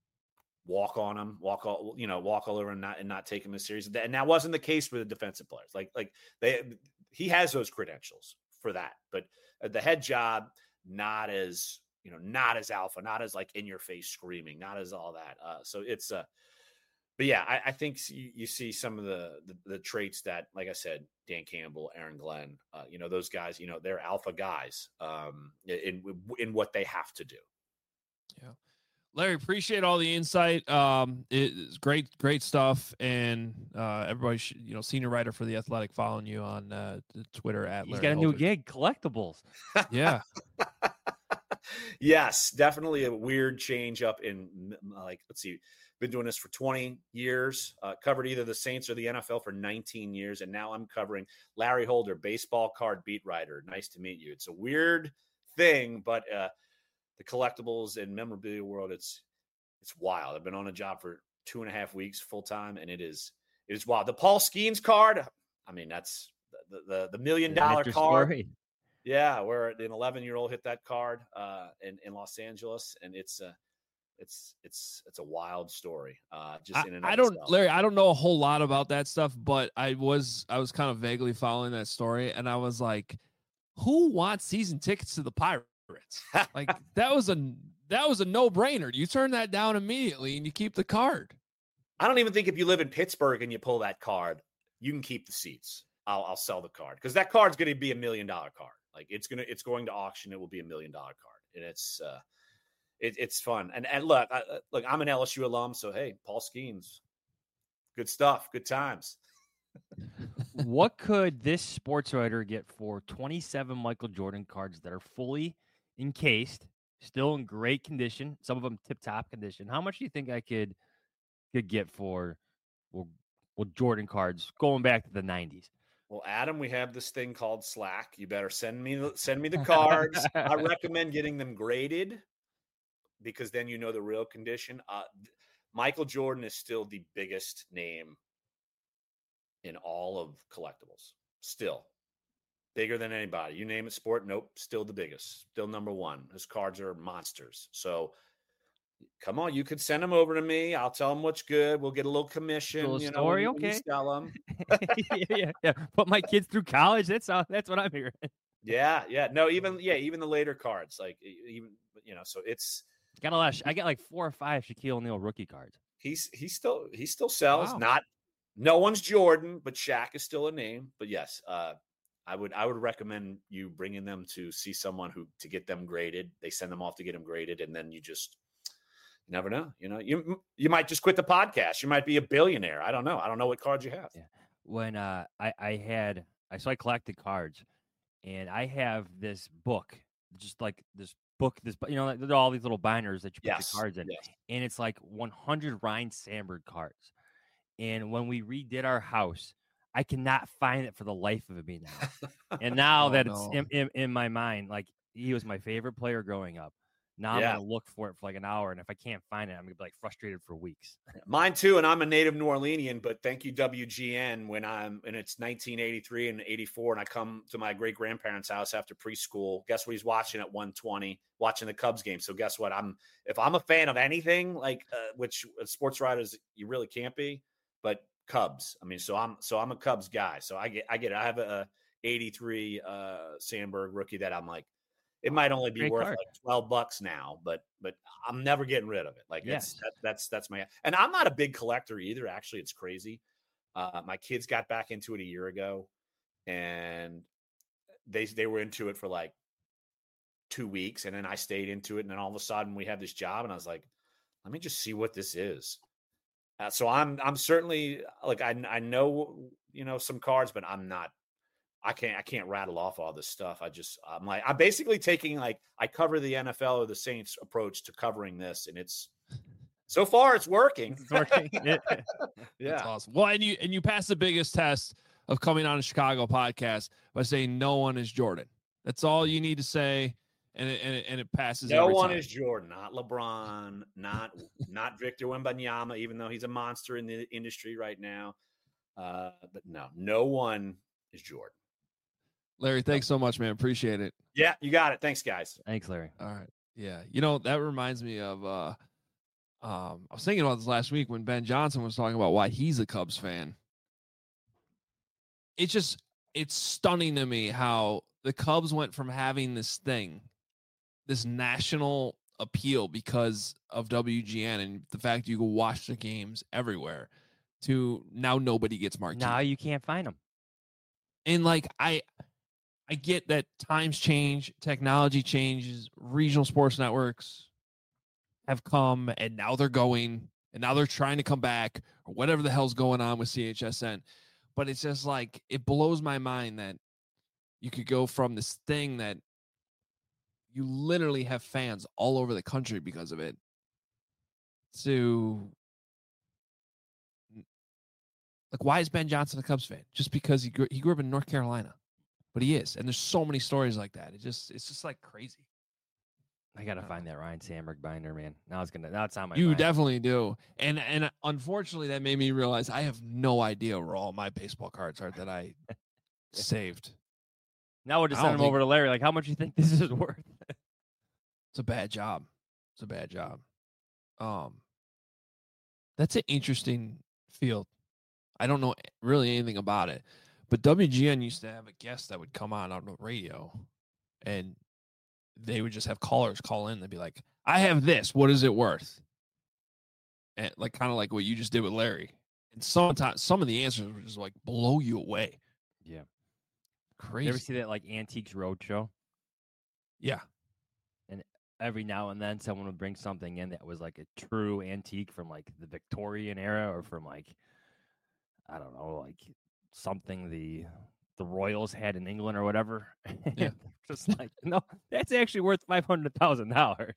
walk on him, walk all, you know, walk all over and not, and not take him as serious. And that wasn't the case with the defensive players. Like, like they, he has those credentials for that, but the head job, not as, you know, not as alpha, not as like in your face screaming, not as all that. Uh, so it's uh But yeah, I, I think you, you see some of the, the the traits that, like I said, Dan Campbell, Aaron Glenn, uh, you know, those guys, you know, they're alpha guys um, in in what they have to do. Yeah, Larry, appreciate all the insight. Um, it's great, great stuff, and uh, everybody, should, you know, senior writer for The Athletic, following you on uh, Twitter at. He's Larry got a Holder. new gig, collectibles. Yeah. Yes, definitely a weird change up in like, let's see. Been doing this for twenty years, uh, covered either the Saints or the N F L for nineteen years. And now I'm covering Larry Holder, baseball card beat writer. Nice to meet you. It's a weird thing, but uh, the collectibles and memorabilia world, it's, it's wild. I've been on a job for two and a half weeks full time. And it is, it is wild. The Paul Skeens card. I mean, that's the, the, the million dollar card. Story. Yeah. Where an eleven year old hit that card uh, in, in Los Angeles. And it's, uh, it's it's it's a wild story. Uh, just I, in and I of don't, itself. Larry. I don't know a whole lot about that stuff, but I was I was kind of vaguely following that story, and I was like, who wants season tickets to the Pirates? Like that was a that was a no brainer. You turn that down immediately, and you keep the card. I don't even think if you live in Pittsburgh and you pull that card, you can keep the seats. I'll, I'll sell the card because that card's going to be a million dollar card. Like it's gonna, it's going to auction. It will be a million dollar card, and it's, uh, it, it's fun. And and look, I, look, I'm an L S U alum, so hey, Paul Skeens, good stuff, good times. What could this sports writer get for twenty-seven Michael Jordan cards that are fully encased, still in great condition? Some of them tip top condition. How much do you think I could could get for well, well Jordan cards going back to the nineties? Well, Adam, we have this thing called Slack. You better send me send me the cards. I recommend getting them graded because then you know the real condition. Uh, Michael Jordan is still the biggest name in all of collectibles. Still bigger than anybody. You name it, sport. Nope, still the biggest. Still number one. His cards are monsters. So come on, you could send them over to me. I'll tell them what's good. We'll get a little commission. Little you story, know, when, okay. when you sell them. yeah, yeah, yeah. Put my kids through college. That's all. That's what I'm hearing. Yeah, yeah. No, even yeah, even the later cards, like even you know. So it's got a lot. Of, I got like four or five Shaquille O'Neal rookie cards. He's he still he still sells. Wow. Not no one's Jordan, but Shaq is still a name. But yes, uh, I would I would recommend you bringing them to see someone who to get them graded. They send them off to get them graded, and then you just. You never know. You know, you you might just quit the podcast. You might be a billionaire. I don't know. I don't know what cards you have. Yeah. When uh, I I had I so I collected cards, and I have this book, just like this book, this you know, there are all these little binders that you put Yes. the cards in, Yes. and it's like one hundred Ryan Sandberg cards. And when we redid our house, I cannot find it for the life of me now. And now Oh, that no. it's in, in, in my mind, like he was my favorite player growing up. Now Yeah. I'm gonna look for it for like an hour, and if I can't find it, I'm gonna be like frustrated for weeks. Mine too, and I'm a native New Orleanian, but thank you W G N when I'm and it's nineteen eighty-three and eighty-four, and I come to my great grandparents' house after preschool. Guess what he's watching at one twenty, watching the Cubs game. So guess what? I'm if I'm a fan of anything, like uh, which uh, sports writers you really can't be, but Cubs. I mean, so I'm so I'm a Cubs guy. So I get I get I have a eighty-three uh, Sandberg rookie that I'm like. It might only be Great worth card. like twelve bucks now, but but I'm never getting rid of it. Like Yes. it's that, that's that's my and I'm not a big collector either. Actually, it's crazy. Uh, my kids got back into it a year ago, and they they were into it for like two weeks, and then I stayed into it, and then all of a sudden we have this job, and I was like, let me just see what this is. Uh, so I'm I'm certainly like I I know you know some cards, but I'm not. I can't I can't rattle off all this stuff. I just I'm like I'm basically taking like I cover the N F L or the Saints approach to covering this, and it's so far it's working. It's working. yeah. That's awesome. Well, and you and you passed the biggest test of coming on a Chicago podcast by saying no one is Jordan. That's all you need to say, and it, and it, and it passes. No every one time. is Jordan, not LeBron, not not Victor Wembanyama, even though he's a monster in the industry right now. Uh, but no, no one is Jordan. Larry, thanks so much, man. Appreciate it. Yeah, you got it. Thanks, guys. Thanks, Larry. All right. Yeah. You know, that reminds me of uh um I was thinking about this last week when Ben Johnson was talking about why he's a Cubs fan. It's just it's stunning to me how the Cubs went from having this thing, this national appeal because of W G N and the fact you can watch the games everywhere to now nobody gets marquee. Now you can't find them. And like I I get that times change, technology changes, regional sports networks have come and now they're going and now they're trying to come back or whatever the hell's going on with C H S N. But it's just like it blows my mind that you could go from this thing that you literally have fans all over the country because of it to like, why is Ben Johnson a Cubs fan? Just because he grew, he grew up in North Carolina, but he is. And there's so many stories like that. It just, it's just like crazy. I gotta find that Ryan Sandberg binder, man. Now it's gonna, now it's on my You mind. definitely do. And, and unfortunately that made me realize I have no idea where all my baseball cards are that I saved. Now we'll just I send don't them think- over to Larry. Like, how much you think this is worth? It's a bad job. It's a bad job. Um, that's an interesting field. I don't know really anything about it, but W G N used to have a guest that would come on on the radio, and they would just have callers call in. They'd be like, "I have this. What is it worth?" And like kind of like what you just did with Larry. And sometimes some of the answers would just like blow you away. Yeah, crazy. You ever see that like Antiques Roadshow? Yeah. And every now and then someone would bring something in that was like a true antique from like the Victorian era or from like, I don't know, like something the the Royals had in England or whatever. Yeah. Just like, no, that's actually worth five hundred thousand dollars.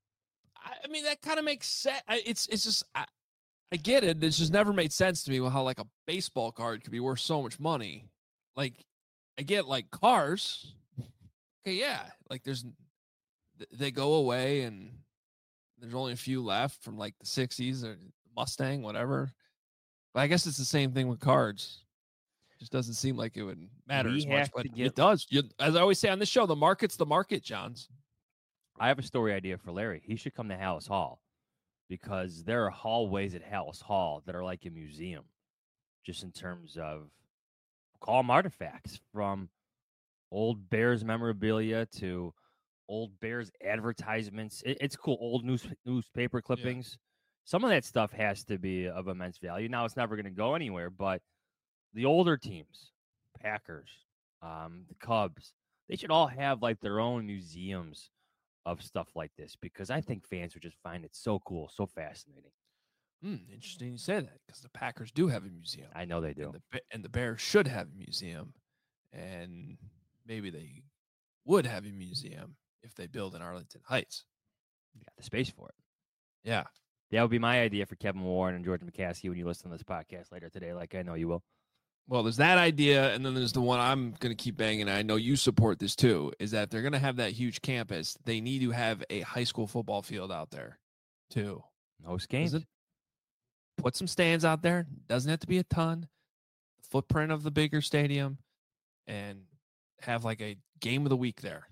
I mean, that kind of makes sense. It's it's just I, I get it. It's just never made sense to me how like a baseball card could be worth so much money. Like, I get like cars. Okay, yeah, like there's they go away and there's only a few left from like the sixties or Mustang, whatever. But I guess it's the same thing with cards. It just doesn't seem like it would matter We as much, have but to get- it does. You, as I always say on this show, the market's the market, Johns. I have a story idea for Larry. He should come to Hallis Hall because there are hallways at Hallis Hall that are like a museum, just in terms of call them artifacts from old Bears memorabilia to old Bears advertisements. It, it's cool. Old news, newspaper clippings. Some of that stuff has to be of immense value. Now, it's never going to go anywhere, but the older teams, Packers, um, the Cubs, they should all have like their own museums of stuff like this because I think fans would just find it so cool, so fascinating. Hmm, interesting you say that because the Packers do have a museum. I know they do. And the, and the Bears should have a museum. And maybe they would have a museum if they build in Arlington Heights. You got the space for it. Yeah. That would be my idea for Kevin Warren and George McCaskey when you listen to this podcast later today, like I know you will. Well, there's that idea, and then there's the one I'm going to keep banging, and I know you support this too, is that if they're going to have that huge campus, they need to have a high school football field out there too. Host games. Doesn't- Put some stands out there. Doesn't have to be a ton. Footprint of the bigger stadium, and have like a game of the week there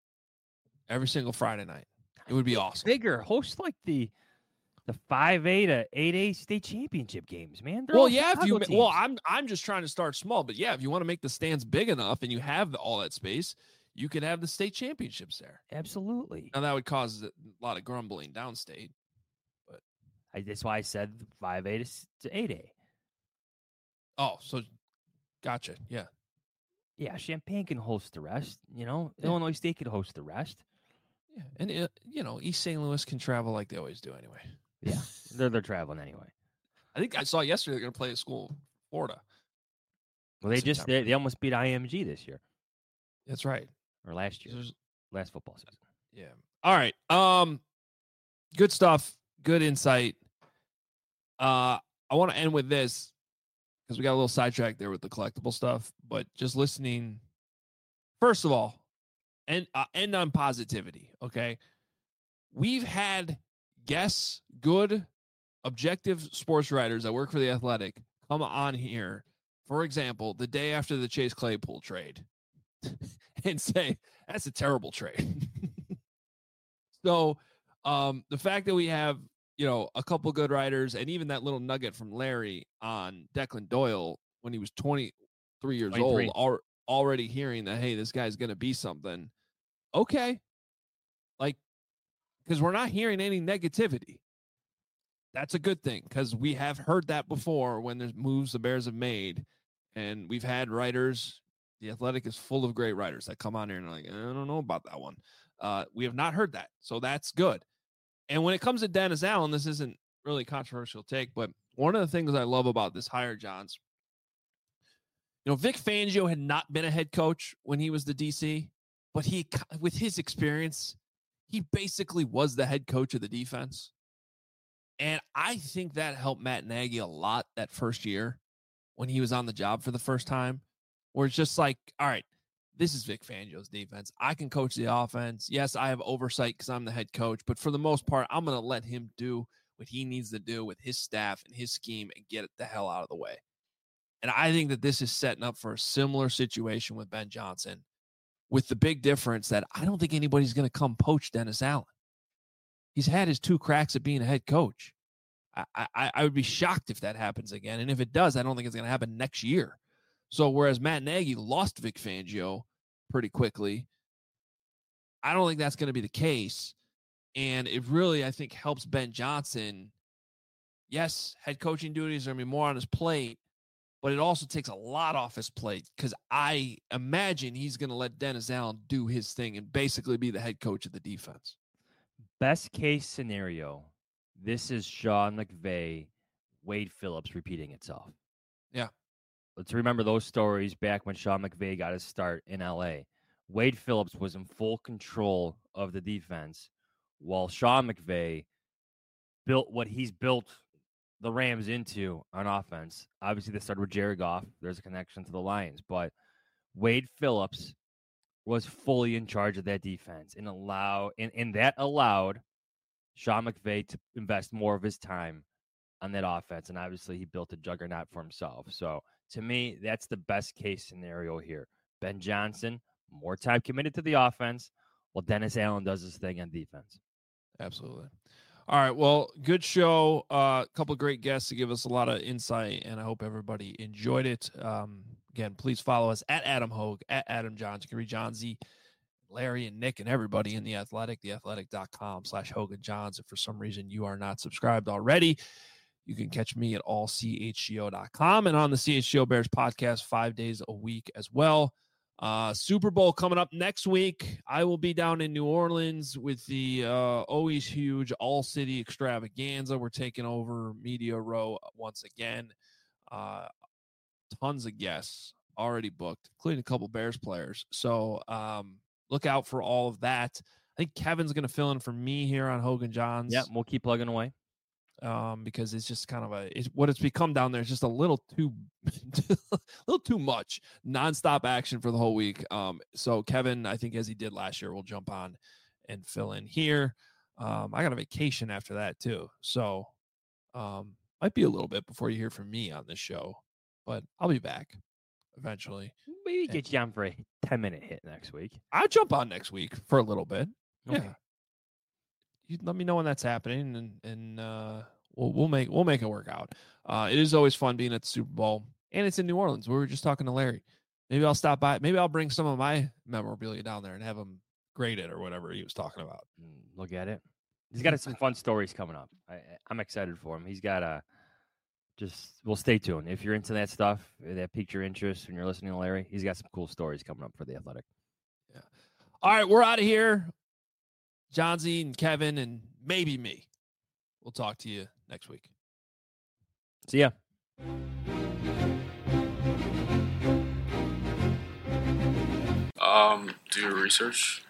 every single Friday night. It would be awesome. Bigger. Host like the the five A to eight A state championship games, man. They're Well, all yeah, if you Chicago well, teams. I'm I'm just trying to start small, but yeah, if you want to make the stands big enough and you have the, all that space, you could have the state championships there. Absolutely. Now that would cause a lot of grumbling downstate. I, that's why I said five A to, to eight A. Oh, so gotcha. Yeah. Yeah, Champaign can host the rest. You know, Yeah. Illinois State could host the rest. Yeah. And, it, you know, East Saint Louis can travel like they always do anyway. Yeah, they're they're traveling anyway. I think I saw yesterday they're going to play a school in Florida. Well, they just September. they, they almost beat I M G this year That's right. or last year, There's- last football season. Yeah. All right. Um, good stuff. Good insight. Uh, I want to end with this because we got a little sidetracked there with the collectible stuff, but just listening. First of all, and uh, end on positivity. Okay, we've had guests, good, objective sports writers that work for the Athletic, come on here. For example, the day after the Chase Claypool trade, and say that's a terrible trade. So, um, the fact that we have, you know, a couple good writers and even that little nugget from Larry on Declan Doyle when he was twenty-three years twenty-three. old, al- already hearing that, hey, this guy's going to be something. Okay. Like, because we're not hearing any negativity. That's a good thing because we have heard that before when there's moves the Bears have made. And we've had writers. The Athletic is full of great writers that come on here and are like, I don't know about that one. Uh, we have not heard that. So that's good. And when it comes to Dennis Allen, this isn't really a controversial take, but one of the things I love about this hire, Johns, you know, Vic Fangio had not been a head coach when he was the D C, but he, with his experience, he basically was the head coach of the defense. And I think that helped Matt Nagy a lot that first year when he was on the job for the first time, where it's just like, all right, this is Vic Fangio's defense. I can coach the offense. Yes, I have oversight because I'm the head coach, but for the most part, I'm going to let him do what he needs to do with his staff and his scheme and get it the hell out of the way. And I think that this is setting up for a similar situation with Ben Johnson, with the big difference that I don't think anybody's going to come poach Dennis Allen. He's had his two cracks at being a head coach. I, I, I would be shocked if that happens again. And if it does, I don't think it's going to happen next year. So whereas Matt Nagy lost Vic Fangio pretty quickly, I don't think that's going to be the case. And it really, I think, helps Ben Johnson. Yes, head coaching duties are going to be more on his plate, but it also takes a lot off his plate because I imagine he's going to let Dennis Allen do his thing and basically be the head coach of the defense. Best case scenario, this is Sean McVay, Wade Phillips repeating itself. Yeah. Let's remember those stories back when Sean McVay got his start in L A. Wade Phillips was in full control of the defense while Sean McVay built what he's built the Rams into on offense. Obviously, they started with Jared Goff. There's a connection to the Lions. But Wade Phillips was fully in charge of that defense and allow and, and that allowed Sean McVay to invest more of his time on that offense. And obviously, he built a juggernaut for himself. So, to me, that's the best case scenario here. Ben Johnson, more time committed to the offense, while Dennis Allen does his thing on defense. Absolutely. All right. Well, good show. A uh, couple of great guests to give us a lot of insight, and I hope everybody enjoyed it. Um, again, please follow us at Adam Hogue, at Adam Johns. You can read John Z, Larry, and Nick, and everybody in The Athletic, theathletic.com slash Hogan Johns. If for some reason you are not subscribed already, you can catch me at all c h g o dot com and on the C H G O Bears podcast five days a week as well. Uh, Super Bowl coming up next week. I will be down in New Orleans with the uh, always huge All City Extravaganza. We're taking over Media Row once again. Uh, tons of guests already booked, including a couple Bears players. So um, look out for all of that. I think Kevin's going to fill in for me here on Hogan Johns. Yeah, we'll keep plugging away. Um, because it's just kind of a it's, what it's become down there is just a little too a little too much nonstop action for the whole week. Um, so Kevin, I think as he did last year, will jump on and fill in here. Um, I got a vacation after that too, so um, might be a little bit before you hear from me on this show, but I'll be back eventually. Maybe get you on for a ten minute hit next week. I'll jump on next week for a little bit. Okay. Yeah. You let me know when that's happening, and and uh, we'll we'll make we'll make it work out. Uh, it is always fun being at the Super Bowl, and it's in New Orleans. We were just talking to Larry. Maybe I'll stop by. Maybe I'll bring some of my memorabilia down there and have him grade it or whatever he was talking about. Look at it. He's got some fun stories coming up. I, I'm excited for him. He's got a just. Well, stay tuned if you're into that stuff. That piqued your interest when you're listening to Larry. He's got some cool stories coming up for the Athletic. Yeah. All right, we're out of here. John Z and Kevin and maybe me. We'll talk to you next week. See ya. Um, do your research.